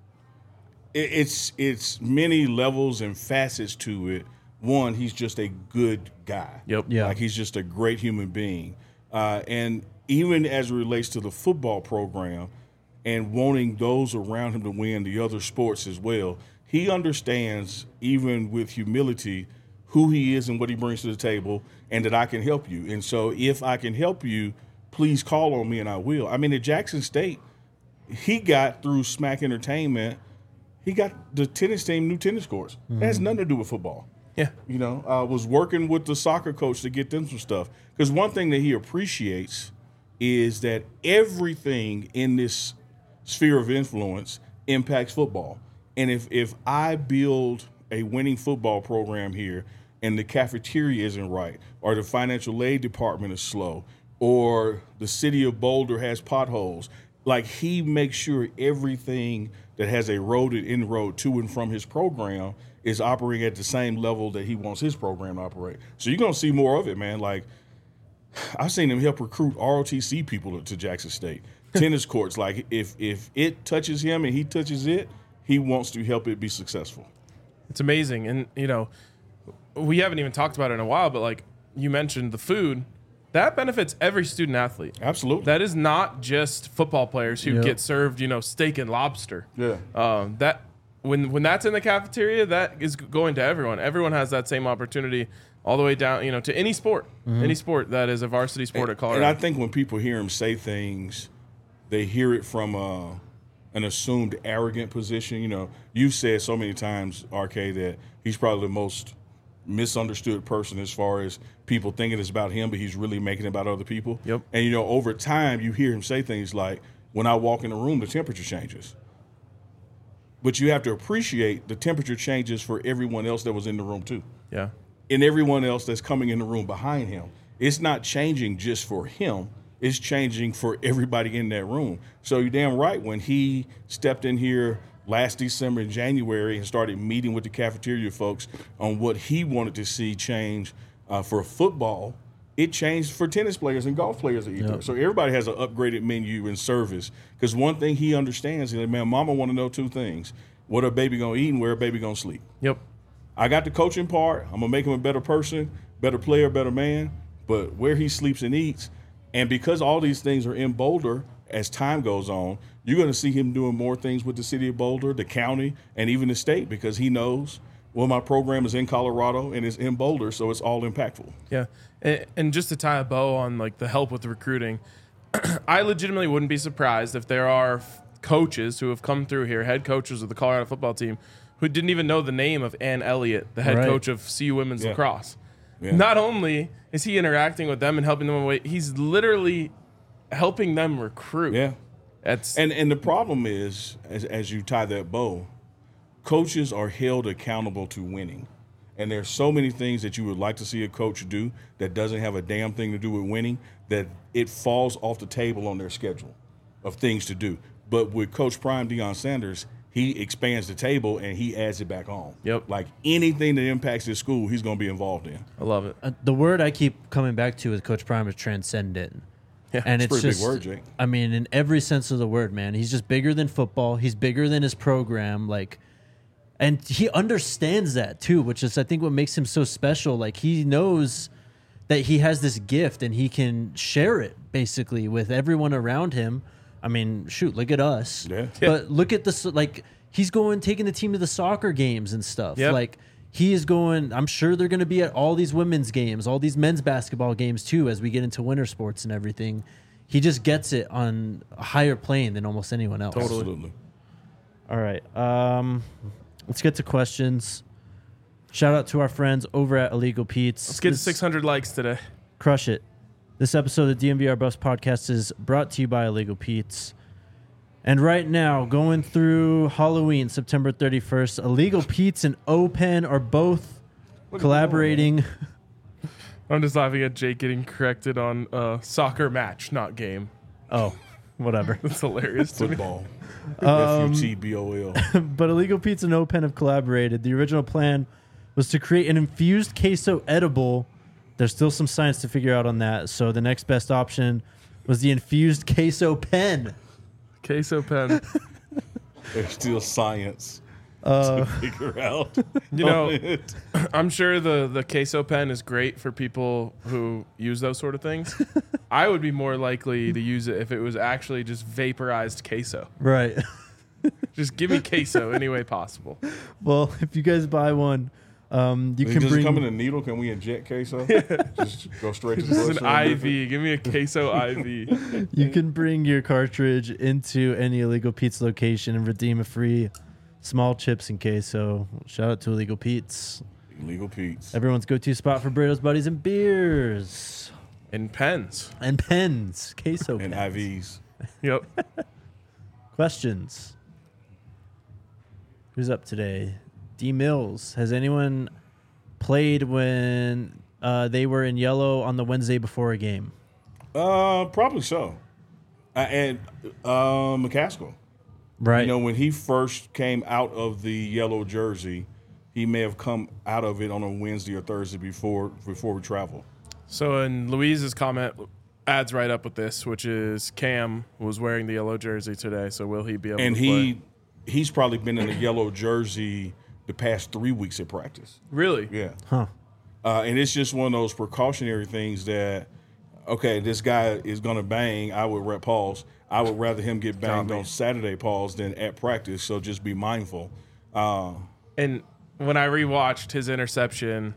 it, it's it's many levels and facets to it. One, he's just a good guy. Yep. Yeah. Like he's just a great human being, uh, and even as it relates to the football program and wanting those around him to win the other sports as well, he understands, even with humility, who he is and what he brings to the table, and that I can help you. And so if I can help you, please call on me and I will. I mean, at Jackson State, he got through Smack Entertainment he got the tennis team new tennis courts. Mm-hmm. It has nothing to do with football. Yeah. You know, I was working with the soccer coach to get them some stuff. Because one thing that he appreciates is that everything in this sphere of influence impacts football. And if, if I build a winning football program here and the cafeteria isn't right, or the financial aid department is slow, or the city of Boulder has potholes, like he makes sure everything that has a road and inroad to and from his program is operating at the same level that he wants his program to operate. So you're going to see more of it, man. Like, I've seen him help recruit R O T C people to, to Jackson State. Tennis courts, like if if it touches him and he touches it, he wants to help it be successful. It's amazing. And, you know, we haven't even talked about it in a while, but like you mentioned the food, that benefits every student athlete. Absolutely. That is not just football players who Yep. get served, you know, steak and lobster. Yeah. Um, that when when that's in the cafeteria, that is going to everyone. Everyone has that same opportunity all the way down, you know, to any sport, Mm-hmm. any sport that is a varsity sport at Colorado. And I think when people hear him say things, they hear it from uh, an assumed arrogant position. You know, you've said so many times, R K, that he's probably the most misunderstood person as far as people thinking it's about him, but he's really making it about other people. Yep. And, you know, over time, you hear him say things like, when I walk in the room, the temperature changes. But you have to appreciate the temperature changes for everyone else that was in the room, too. yeah. And everyone else that's coming in the room behind him. It's not changing just for him. It's changing for everybody in that room. So you're damn right, when he stepped in here last December and January and started meeting with the cafeteria folks on what he wanted to see change uh, for football, it changed for tennis players and golf players that eat there. So everybody has an upgraded menu and service. Because one thing he understands is that, man, mama want to know two things. What a baby going to eat and where a baby going to sleep. Yep. I got the coaching part. I'm going to make him a better person, better player, better man. But where he sleeps and eats, and because all these things are in Boulder, as time goes on, you're going to see him doing more things with the city of Boulder, the county, and even the state, because he knows, well, my program is in Colorado and it's in Boulder, so it's all impactful. Yeah. And, and just to tie a bow on like the help with the recruiting, I legitimately wouldn't be surprised if there are f- coaches who have come through here, head coaches of the Colorado football team, who didn't even know the name of Ann Elliott, the head Right. coach of C U Women's Yeah. Lacrosse. Yeah. Not only is he interacting with them and helping them away, he's literally helping them recruit. Yeah. That's And and the problem is, as, as you tie that bow, coaches are held accountable to winning. And there's so many things that you would like to see a coach do that doesn't have a damn thing to do with winning, that it falls off the table on their schedule of things to do. But with Coach Prime Deion Sanders, he expands the table and he adds it back on. Yep. Like anything that impacts his school, he's going to be involved in. I love it. Uh, the word I keep coming back to with Coach Prime is transcendent. Yeah, and it's it's, a pretty big just, word, Jake. I mean, in every sense of the word, man. He's just bigger than football. He's bigger than his program. Like, and he understands that too, which is I think what makes him so special. Like he knows that he has this gift and he can share it basically with everyone around him. I mean, shoot, look at us. Yeah. But look at this, like he's going, taking the team to the soccer games and stuff. Yep. Like he is going, I'm sure they're going to be at all these women's games, all these men's basketball games too, as we get into winter sports and everything. He just gets it on a higher plane than almost anyone else. Absolutely. All right. Um, let's get to questions. Shout out to our friends over at Illegal Pete's. Let's get to This- six hundred likes today. Crush it. This episode of the D M V R Bus podcast is brought to you by Illegal Pete's. And right now, going through Halloween, September thirty-first, Illegal Pete's and O-Pen are both collaborating. I'm just laughing at Jake getting corrected on uh, soccer match, not game. Oh, whatever. That's hilarious to me. Football. Um, F U T B O L. But Illegal Pete's and O-Pen have collaborated. The original plan was to create an infused queso edible. There's still some science to figure out on that. So the next best option was the infused queso pen. Queso pen. There's still science Uh, to figure out. You know, I'm sure the, the queso pen is great for people who use those sort of things. I would be more likely to use it if it was actually just vaporized queso. right. Just give me queso any way possible. Well, if you guys buy one, um, you Does can it bring. come in a needle? Can we inject queso? Just go straight to the This is an bloodstream I with it? V. Give me a queso I V. You can bring your cartridge into any Illegal Pete's location and redeem a free Small chips and queso. Shout out to Illegal Pete's. Illegal Pete's. Everyone's go-to spot for burritos, buddies, and beers. And pens. And pens. Queso And pens. I Vs. Yep. Questions. Who's up today? D Mills. Has anyone played when uh, they were in yellow on the Wednesday before a game? Uh, probably so. Uh, and uh, McCaskill. Right. You know, when he first came out of the yellow jersey, he may have come out of it on a Wednesday or Thursday before before we travel. So, in Louise's comment adds right up with this, which is Cam was wearing the yellow jersey today. So, will he be able And to he play? he's probably been in the yellow jersey the past three weeks at practice. Really? Yeah. Huh. Uh, and it's just one of those precautionary things that, okay, this guy is going to bang. I would rep Pauls. I would rather him get banged Got me. on Saturday, Pauls, than at practice. So just be mindful. Uh, And when I rewatched his interception,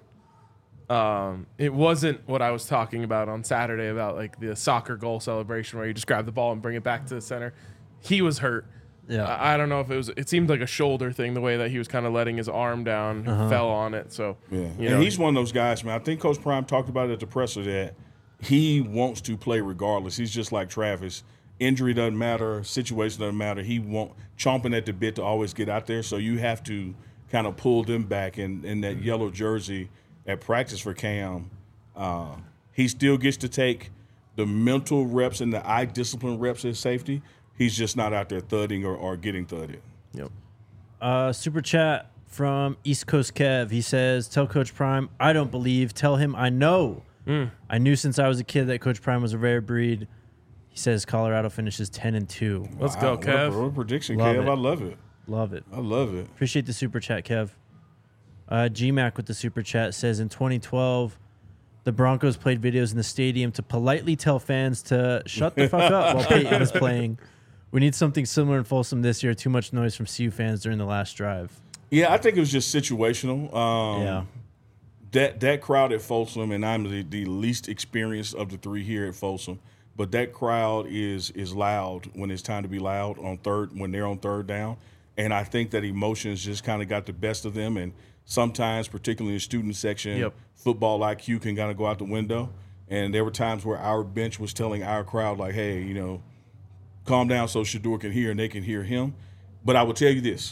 um, it wasn't what I was talking about on Saturday about like the soccer goal celebration where you just grab the ball and bring it back to the center. He was hurt. Yeah. I, I don't know if it was. It seemed like a shoulder thing, the way that he was kind of letting his arm down, Uh-huh. fell on it. So yeah. you And know, he's one of those guys, man. I think Coach Prime talked about it at the presser that he wants to play regardless. He's just like Travis. Injury doesn't matter. Situation doesn't matter. He won't chomping at the bit to always get out there. So you have to kind of pull them back. And in that yellow jersey at practice for Cam, uh, he still gets to take the mental reps and the eye discipline reps at safety. He's just not out there thudding or, or getting thudded. Yep. Uh, super chat from East Coast Kev. He says, tell Coach Prime, I don't believe. Tell him I know. Mm. I knew since I was a kid that Coach Prime was a rare breed. He says Colorado finishes ten and two. Let's Wow, go, what a- Kev. What a prediction, Love Kev. it. I love it. Love it. I love it. Appreciate the super chat, Kev. Uh, G Mac with the super chat says in twenty twelve, the Broncos played videos in the stadium to politely tell fans to shut the fuck up while Peyton was playing. We need something similar in Folsom this year. Too much noise from C U fans during the last drive. Yeah, I think it was just situational. Um, Yeah. That that crowd at Folsom, and I'm the, the least experienced of the three here at Folsom, but that crowd is is loud when it's time to be loud on third when they're on third down, and I think that emotions just kind of got the best of them, and sometimes, particularly in the student section, Yep. football I Q can kind of go out the window, and there were times where our bench was telling our crowd like, hey, you know, calm down so Shedeur can hear and they can hear him. But I will tell you this,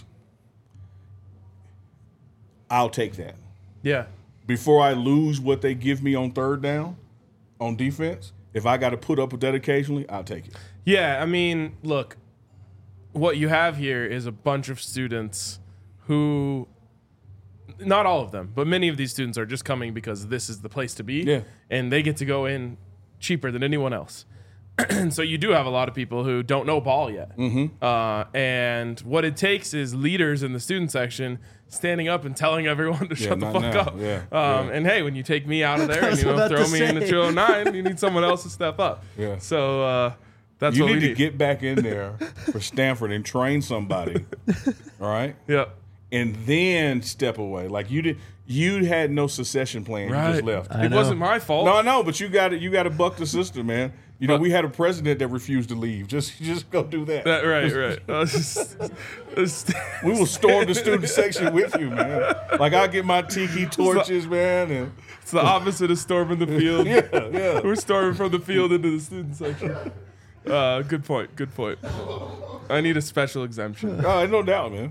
I'll take that. Yeah. Before I lose what they give me on third down on defense, if I got to put up with that occasionally, I'll take it. Yeah, I mean, look, what you have here is a bunch of students who, not all of them, but many of these students are just coming because this is the place to be. Yeah. And they get to go in cheaper than anyone else. And so you do have a lot of people who don't know ball yet. Mm-hmm. Uh, and what it takes is leaders in the student section standing up and telling everyone to Yeah, shut the not fuck now. up. Yeah, Um, yeah. And hey, when you take me out of there and was you know about throw to me in the say. two oh nine, you need someone else to step up. Yeah. So uh, that's You what need we to need. get back in there for Stanford and train somebody, all right? yeah. And then step away. Like you did, you had no succession plan. You Right. just left. I It know. wasn't my fault. No, no, but you got to you got to buck the system, man. You know, But- we had a president that refused to leave. Just just go do that. That, right, right. I was just- just- We will storm the student section with you, man. Like I'll get my tiki torches, man, and it's the opposite of storming the field. yeah, yeah. We're storming from the field into the student section. Uh, good point. Good point. I need a special exemption. Oh, no doubt, man.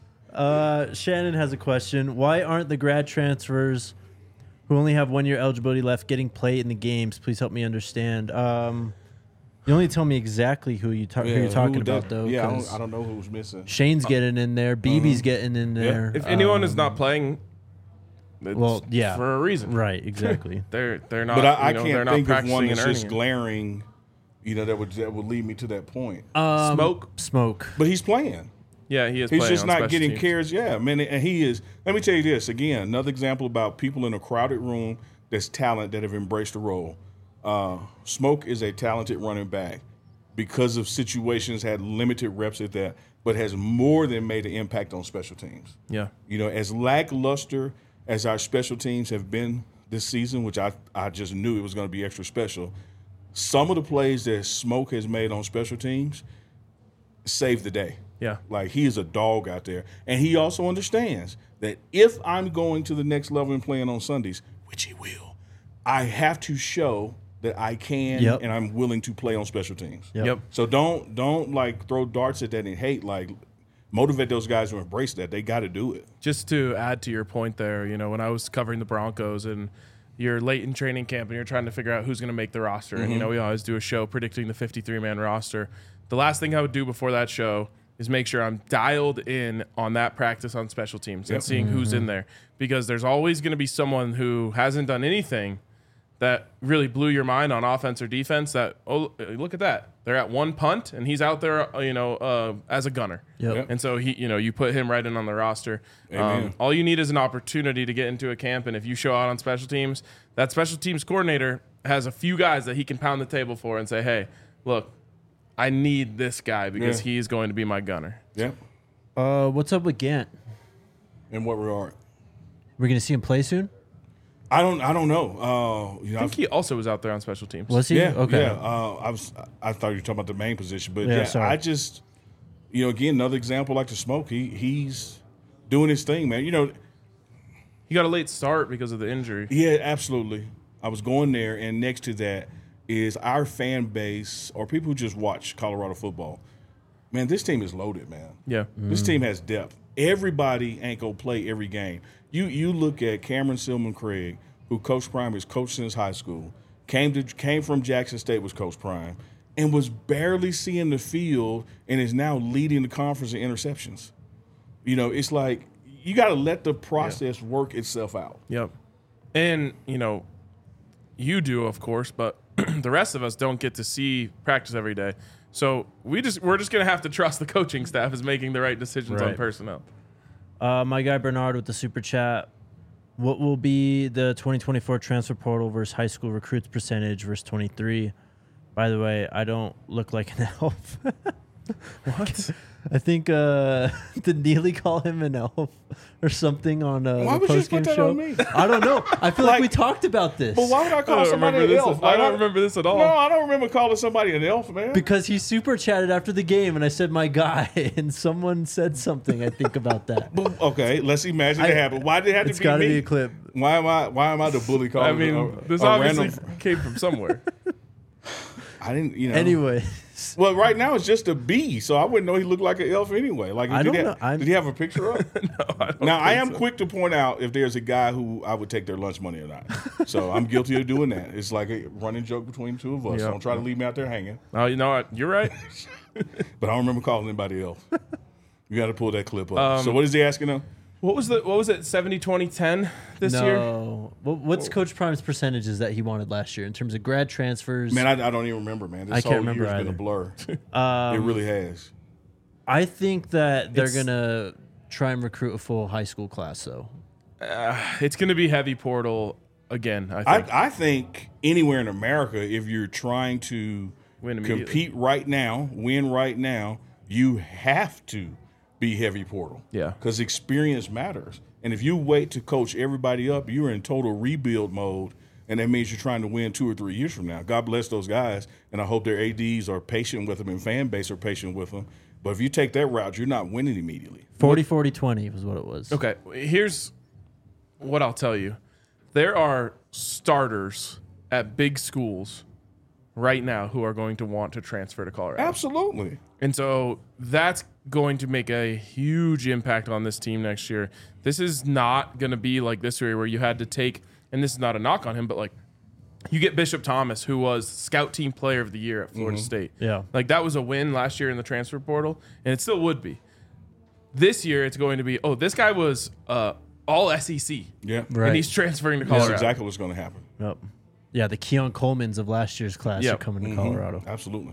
Uh, Shannon has a question. Why aren't the grad transfers who only have one year eligibility left getting played in the games? Please help me understand. Um, you only tell me exactly who you ta- who you're talking who about, that- though. Yeah, I 'cause don't, I don't know who's missing. Shane's getting in there. B B's getting in there. If anyone Um, is not playing, it's well, yeah. for a reason. right, exactly. They're they're not. But I, I you know, they're can't not think of practicing one and that's earning just it. glaring, you know, that would that would lead me to that point. Um, Smoke. Smoke. But he's playing. Yeah, he is. He's playing just on not special getting teams. cares. Yeah, man, and he is. Let me tell you this again. Another example about people in a crowded room that's talent that have embraced the role. Uh, Smoke is a talented running back because of situations, had limited reps at that, but has more than made an impact on special teams. Yeah. You know, as lackluster as our special teams have been this season, which I I just knew it was going to be extra special. Some of the plays that Smoke has made on special teams saved the day. Yeah. Like, he is a dog out there. And he also understands that if I'm going to the next level and playing on Sundays, which he will, I have to show that I can Yep. and I'm willing to play on special teams. Yep. Yep. So don't don't like throw darts at that and hate. Like, motivate those guys to embrace that. They got to do it. Just to add to your point there, you know, when I was covering the Broncos and you're late in training camp and you're trying to figure out who's going to make the roster, and you know, we always do a show predicting the fifty-three man roster. The last thing I would do before that show is make sure I'm dialed in on that practice on special teams and seeing who's in there, because there's always going to be someone who hasn't done anything that really blew your mind on offense or defense. That, oh, look at that, they're at one punt and he's out there, uh, you know, uh, as a gunner. Yep. Yep. And so he, you know, you put him right in on the roster. Um, Amen. all you need is an opportunity to get into a camp, and if you show out on special teams, that special teams coordinator has a few guys that he can pound the table for and say, "Hey, look, I need this guy because Yeah. he's going to be my gunner." Yeah. Uh, what's up with Gant? In what regard? We're gonna see him play soon. I don't. I don't know. Uh, you know, I think he also was out there on special teams. Was he? Yeah, Okay. yeah. Uh, I was. I thought you were talking about the main position, but Yeah, yeah, sorry. I just, you know, again, another example like the smoke. He he's doing his thing, man. You know, He got a late start because of the injury. yeah, absolutely. I was going there, and next to that is our fan base or people who just watch Colorado football. Man, this team is loaded, man. Yeah. This team has depth. Everybody ain't gonna play every game. You you look at Cameron Silman Craig, who Coach Prime has coached since high school, came to came from Jackson State, was Coach Prime, and was barely seeing the field and is now leading the conference in interceptions. You know, it's like you got to let the process work itself out. Yep. And, you know, you do, of course, but the rest of us don't get to see practice every day. So we just we're just gonna have to trust the coaching staff is making the right decisions on Right. personnel. Uh, my guy Bernard with the super chat. What will be the twenty twenty-four transfer portal versus high school recruits percentage versus twenty-three? By the way, I don't look like an elf. What? I think uh, did Neely call him an elf or something on uh, Why the would you just post-game put that show? on me? I don't know. I feel like, Like- we talked about this. But why would I I call don't somebody remember an this. elf? I Like, don't remember this at all. No, I don't remember calling somebody an elf, man. Because he super chatted after the game, and I said my guy, and someone said something. I think about that. Okay, let's imagine I- it happened. Why did it have It's to be got to me? be a clip. Why am I? Why am I the bully? I Calling mean, a, this a obviously random- came from somewhere. I didn't. You know. Anyway, Well, right now it's just a B, so I wouldn't know he looked like an elf anyway. Like, I did, don't he know. have, I'm- did he have a picture up? no, I don't Now, I think am so. quick to point out if there's a guy who I would take their lunch money or not. So I'm guilty of doing that. It's like a running joke between the two of us. Yeah. Don't try to leave me out there hanging. Oh, you know what? You're right. But I don't remember calling anybody else. You got to pull that clip up. Um, so what is he asking them? What was the what was it? seventy twenty ten this year? no. What, what's Coach Prime's percentages that he wanted last year in terms of grad transfers? Man, I, I don't even remember, man. This I can't whole remember year's been a either. blur. Um, it really has. I think that they're It's- gonna try and recruit a full high school class, though. Uh, it's going to be heavy portal again. I I, think. I think anywhere in America, if you're trying to Win immediately. compete right now, win right now, you have to be heavy portal. Yeah. Because experience matters. And if you wait to coach everybody up, you're in total rebuild mode. And that means you're trying to win two or three years from now. God bless those guys. And I hope their A Ds are patient with them and fan base are patient with them. But if you take that route, you're not winning immediately. forty forty twenty was what it was. Okay, here's what I'll tell you. There are starters at big schools right now who are going to want to transfer to Colorado. Absolutely. And so that's going to make a huge impact on this team next year. This is not going to be like this year where you had to take, and this is not a knock on him, but like you get Bishop Thomas, who was scout team player of the year at Florida State. Yeah. Like that was a win last year in the transfer portal, and it still would be. This year it's going to be, oh, this guy was uh, all S E C. Yeah. Right. And he's transferring to That's Colorado. exactly what's going to happen. Yep. Yeah, the Keon Colemans of last year's class Yep. are coming to Colorado. Absolutely.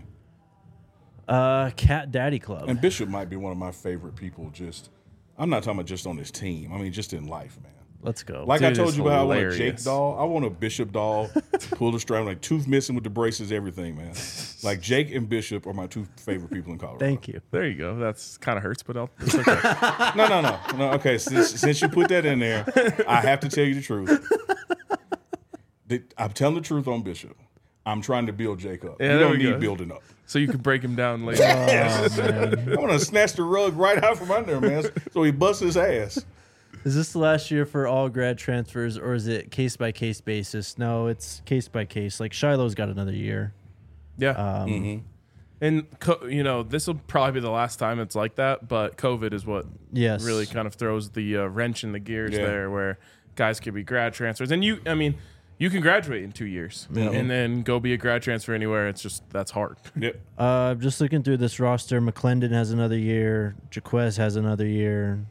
Uh, Cat Daddy Club. And Bishop might be one of my favorite people. Just, I'm not talking about just on this team. I mean, just in life, man. Let's go. Like I Dude told is you about, I want a Jake hilarious. doll. I want a Bishop doll. Pull the string, like tooth missing with the braces, everything, man. Like Jake and Bishop are my two favorite people in Colorado. Thank you. There you go. That's kind of hurts, but I'll, it's okay. No, no, no, no. Okay, since since you put that in there, I have to tell you the truth. The- I'm telling the truth on Bishop. I'm trying to build Jake up. Yeah, you there don't we need go. building up. So you can break him down later. Yes. I want to snatch the rug right out from under him, man, so he busts his ass. Is this the last year for all grad transfers, or is it case by case basis? No, it's case by case. Like Shiloh's got another year. Yeah. Um, Mm-hmm. And, co- you know, this will probably be the last time it's like that, but COVID is what Yes. really kind of throws the uh, wrench in the gears Yeah. there where guys could be grad transfers. And you, I mean, you can graduate in two years and then go be a grad transfer anywhere. It's just, that's hard. Yep. Uh, just looking through this roster, McClendon has another year. Jaquez has another year.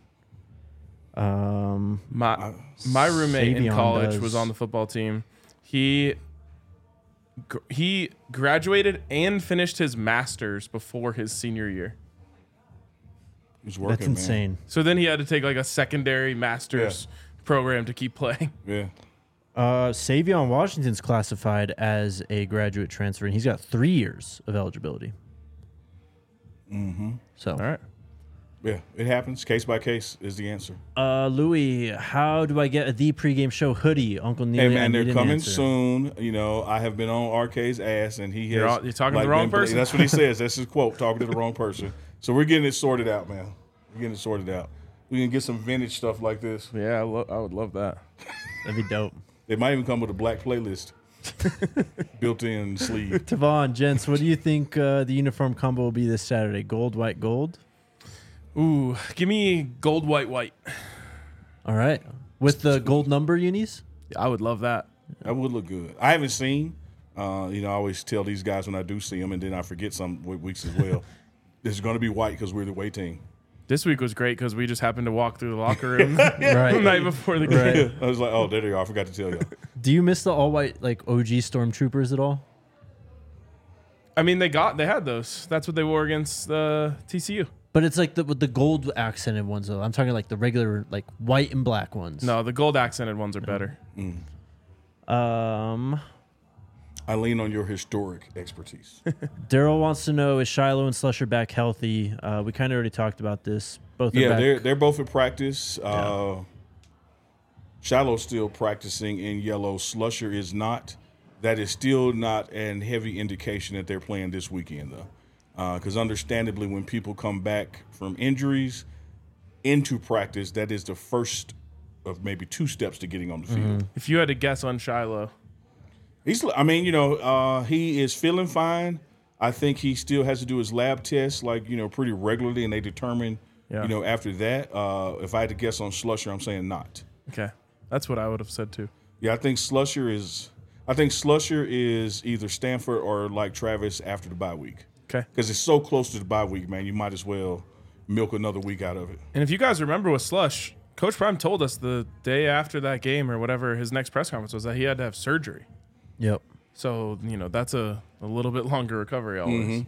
Um, My my roommate in Savion college does. was on the football team. He gr- he graduated and finished his master's before his senior year. He's working, that's man. insane. So then he had to take like a secondary master's program to keep playing. Yeah. Uh, Savion Washington's classified as a graduate transfer, and he's got three years of eligibility. Mm-hmm. So, All right. Yeah. It happens. Case by case is the answer. uh, Louis, how do I get a the pregame show hoodie? Uncle Neil. Hey man, they're coming soon. You know, I have been on R K's ass, and he has. You're all- you're talking to the like, wrong been- person? That's what he says. That's his quote. Talking to the wrong person. So we're getting it sorted out, man. We're getting it sorted out. We can get some vintage stuff like this. Yeah, I, lo- I would love that. That'd be dope. It might even come with a black playlist, built-in sleeve. Tavon, gents, what do you think uh, the uniform combo will be this Saturday? Gold, white, gold. Ooh, give me gold, white, white. All right, with the gold number unis. I would love that. That would look good. I haven't seen. Uh, you know, I always tell these guys when I do see them, and then I forget some w- weeks as well. This is going to be white because we're the away team. This week was great because we just happened to walk through the locker room Right. the night before the game. Right. I was like, oh, there they are. I forgot to tell you. Do you miss the all white like O G stormtroopers at all? I mean, they got they had those. That's what they wore against uh, T C U. But it's like the with the gold accented ones though. I'm talking like the regular like white and black ones. No, the gold accented ones are better. Um, I lean on your historic expertise. Daryl wants to know, is Shiloh and Slusher back healthy? Uh, we kind of already talked about this. Both are Yeah, back. they're they're both at practice. Uh, Shiloh's still practicing in yellow. Slusher is not. That is still not an heavy indication that they're playing this weekend, though. Because understandably, when people come back from injuries into practice, that is the first of maybe two steps to getting on the field. If you had to guess on Shiloh, He's. I mean, you know, uh, he is feeling fine. I think he still has to do his lab tests, like you know, pretty regularly, and they determine, Yeah. you know, after that. Uh, if I had to guess on Slusher, I'm saying not. okay, that's what I would have said too. Yeah, I think Slusher is. I think Slusher is either Stanford or like Travis after the bye week, Okay, because it's so close to the bye week, man. You might as well milk another week out of it. and if you guys remember with Slush, Coach Prime told us the day after that game or whatever his next press conference was that he had to have surgery. Yep. So you know that's a, a little bit longer recovery always.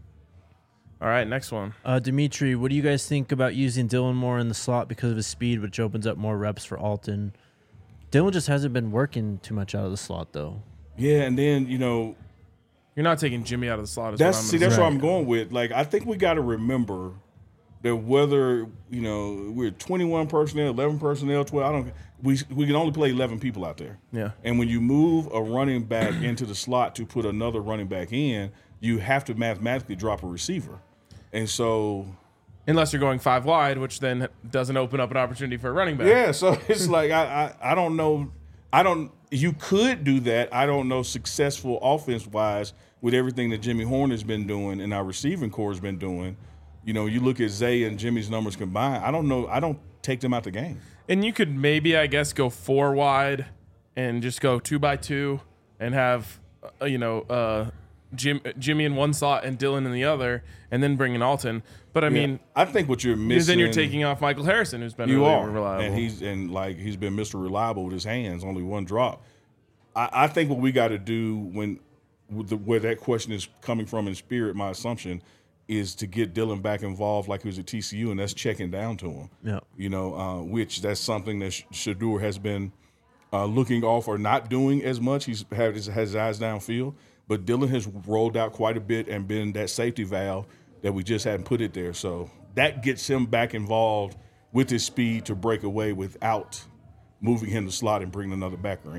All right, next one. Uh, Dimitri, what do you guys think about using Dylan more in the slot because of his speed, which opens up more reps for Alton? Dylan just hasn't been working too much out of the slot, though. Yeah, and then you know You're not taking Jimmy out of the slot. Is that's what I'm see gonna that's say. what I'm going with. Like I think we got to remember that whether you know we're twenty-one personnel, eleven personnel, twelve. I don't. We we can only play eleven people out there. Yeah. And when you move a running back into the slot to put another running back in, you have to mathematically drop a receiver. And so, Unless you're going five wide, which then doesn't open up an opportunity for a running back. yeah, so it's like, I, I, I don't know. I don't, you could do that. I don't know successful offense wise with everything that Jimmy Horn has been doing and our receiving core has been doing. You know, you look at Zay and Jimmy's numbers combined. I don't know. I don't take them out the game. And you could maybe, I guess, go four wide and just go two by two and have, uh, you know, uh, Jim, Jimmy in one slot and Dylan in the other, and then bring in Alton. But I mean, I think what you're because missing. then you're taking off Michael Harrison, who's been You really are, reliable. and he's and like he's been Mister Reliable with his hands, only one drop. I, I think what we got to do when with the, where that question is coming from in spirit, my assumption is to get Dylan back involved like he was at T C U, and that's checking down to him. Yeah. You know, uh, which that's something that Sh- Shadur has been uh, looking off or not doing as much. He's had his, has his eyes downfield, but Dylan has rolled out quite a bit and been that safety valve that we just hadn't put it there. So that gets him back involved with his speed to break away without moving him to slot and bringing another backer in.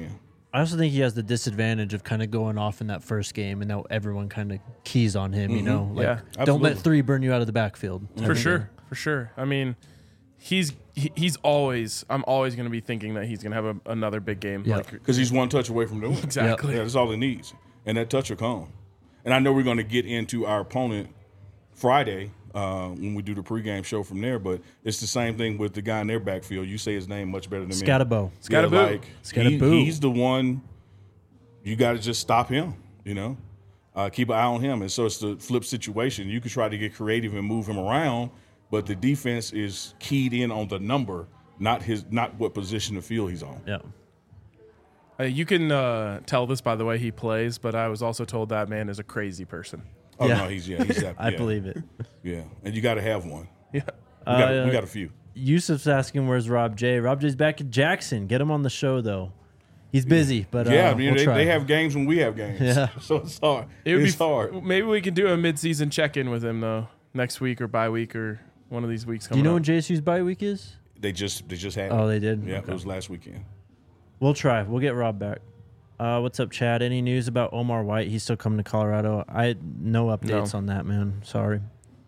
I also think he has the disadvantage of kind of going off in that first game, and now everyone kind of keys on him. You know, like Yeah, don't absolutely. let three burn you out of the backfield. For sure, for sure. I mean, he's he, he's always. I'm always going to be thinking that he's going to have a, another big game. Yeah. Like, Because he's one touch away from doing it. exactly. Yeah, that's all he needs. And that touch will come. And I know we're going to get into our opponent Friday uh, when we do the pregame show from there, but it's the same thing with the guy in their backfield. You say his name much better than me. Scatabo. Yeah, Scattaboo. like, he, Scattaboo. he's the one, you got to just stop him, you know? Uh, keep an eye on him. And so it's the flip situation. You could try to get creative and move him around, but the defense is keyed in on the number, not his, not what position of field he's on. Yeah. Uh, you can uh, tell this by the way he plays, but I was also told that man is a crazy person. Oh, Yeah. no, he's, yeah, he's that. I yeah. believe it. Yeah, and you got to have one. Yeah. We got, Uh, we got a few. Yusuf's asking where's Rob J. Rob J's back at Jackson. Get him on the show though. He's busy, but uh, Yeah, I mean, we'll they, try. they have games when we have games. Yeah. So it's hard. It would it's be hard. Maybe we can do a mid-season check-in with him though next week or bye week or one of these weeks. Do Coming you know up. when J S U's bye week is? They just they just had Oh, it. they did? Yeah, Okay. it was last weekend. We'll try. We'll get Rob back. Uh, what's up, Chad? Any news about Omar White? He's still coming to Colorado. I no updates No. on that, man. Sorry.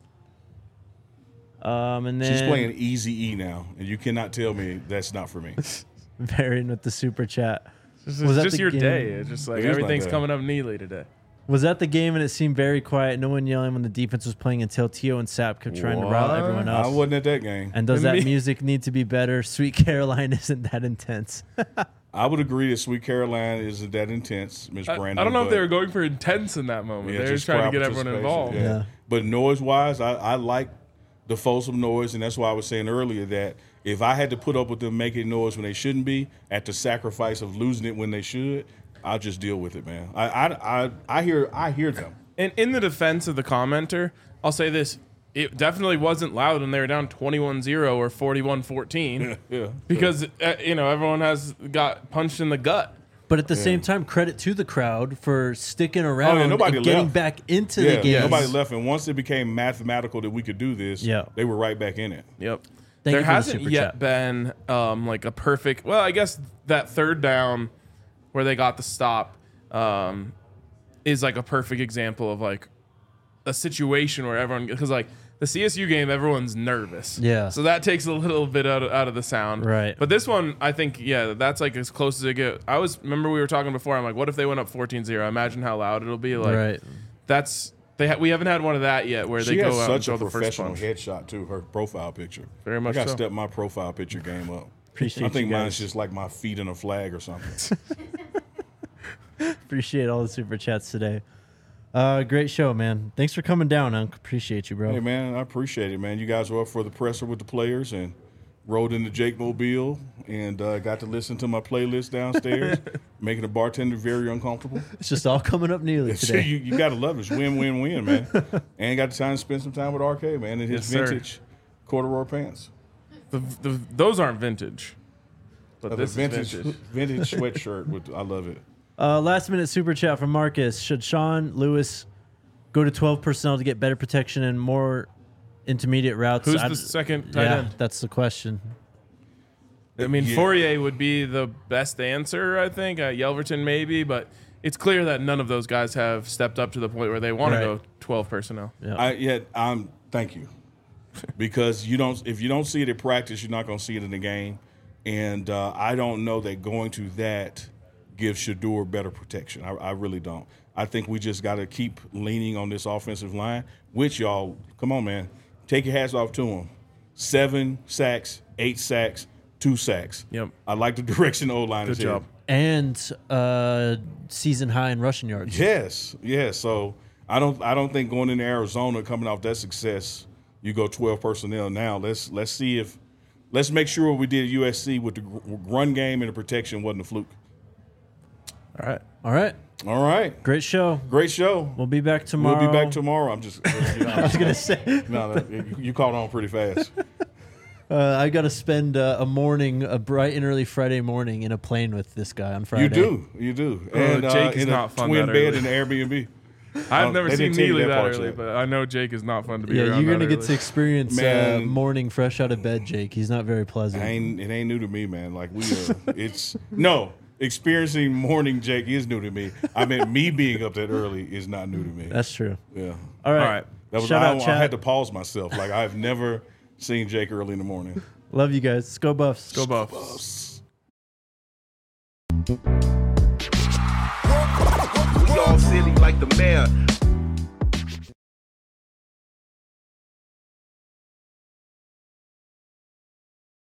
Um, and then She's playing Easy E now, and you cannot tell me that's not for me. Varian with the super chat. It's Was that just the your game? day. It's just like It is my everything's day. coming up Neely today. Was that the game and it seemed very quiet? No one yelling when the defense was playing until Tio and Sapp kept trying to rile What? everyone I else. wasn't at that game. And does And that me- music need to be better? Sweet Caroline isn't that intense. I would agree that Sweet Caroline isn't that intense, Miss I, Brandon. I don't know if but- they were going for intense in that moment. Yeah, they were just trying to crowd get everyone participation, involved. Yeah. Yeah. But noise wise, I, I like the Folsom noise, and that's why I was saying earlier that if I had to put up with them making noise when they shouldn't be, at the sacrifice of losing it when they should, I'll just deal with it, man. I I I, I hear I hear them. And in the defense of the commenter, I'll say this. It definitely wasn't loud when they were down twenty-one zero or forty-one fourteen Yeah. because, uh, you know, everyone has got punched in the gut. But at the same time, credit to the crowd for sticking around Oh, yeah, nobody and getting left. back into Yeah, the game. nobody left, and once it became mathematical that we could do this, Yeah. they were right back in it. Yep. Thank there you for the hasn't super yet chat. been um, like a perfect. Well, I guess that third down where they got the stop um, is like a perfect example of like a situation where everyone, because like the C S U game, everyone's nervous. Yeah. So that takes a little bit out of, out of the sound. Right. But this one, I think, yeah, that's like as close as it get. I was remember we were talking before. I'm like, what if they went up fourteen zero? Imagine how loud it'll be. Like Right. that's they ha- we haven't had one of that yet where She they has go out and such a throw the first professional punch. headshot too. Her profile picture. Very much I got to so. step my profile picture game up. Appreciate I think you mine's guys. just like my feet in a flag or something. Appreciate all the super chats today. Uh, great show, man. Thanks for coming down, Unc. Appreciate you, bro. Hey man, I appreciate it, man. You guys were up for the presser with the players and rode in the Jake Mobile and uh, got to listen to my playlist downstairs, making the bartender very uncomfortable. It's just all coming up nearly So today. you, you got to love it. It's win, win, win, man. And got the time to spend some time with R K, man, in his Yes, sir. vintage corduroy pants. The, the, those aren't vintage. But Uh, this the vintage, is vintage. vintage sweatshirt. With, I love it. Uh, last minute super chat from Marcus. Should Sean Lewis go to twelve personnel to get better protection and more intermediate routes? Who's I- the second tight yeah, end? that's the question. I mean, Yeah. Fourier would be the best answer, I think. Uh, Yelverton maybe, but it's clear that none of those guys have stepped up to the point where they want Right. to go twelve personnel. Yeah. I yet um thank you. Because you don't if you don't see it at practice, you're not gonna see it in the game. And uh, I don't know that going to that gives Shador better protection. I, I really don't. I think we just got to keep leaning on this offensive line, which y'all, come on, man, take your hats off to them. Seven sacks, eight sacks, two sacks. Yep. I like the direction the O-line is Good job. and uh, season high in rushing yards. Yes, yes. So I don't, I don't think going into Arizona, coming off that success, you go twelve personnel now. Let's let's see if, let's make sure what we did at U S C with the gr- run game and the protection wasn't a fluke. All right. All right. All right, Great show. great show. We'll be back tomorrow. We'll be back tomorrow. I'm just, I was gonna say no, no, you- you caught on pretty fast. uh, I got to spend uh, a morning, a bright and early Friday morning, in a plane with this guy on Friday. You do, you do. Oh, And Jake uh, is in not a fun twin that bed early. in the Airbnb. I've Um, never they seen didn't tell you Neely that that, part early, yet. but I know Jake is not fun to be Yeah, around. you're gonna that get to early. experience uh, Man. morning fresh out of bed, Jake. He's not very pleasant. It ain't, it ain't new to me, man. Like we, uh, it's no. experiencing morning Jake is new to me. I meant me being up that early is not new to me. That's true. Yeah. All right. All right. That was Shout I, out, I Chad. had to pause myself. Like I've never seen Jake early in the morning. Love you guys. Let's go Buffs. Go Buffs. We all silly like the mayor.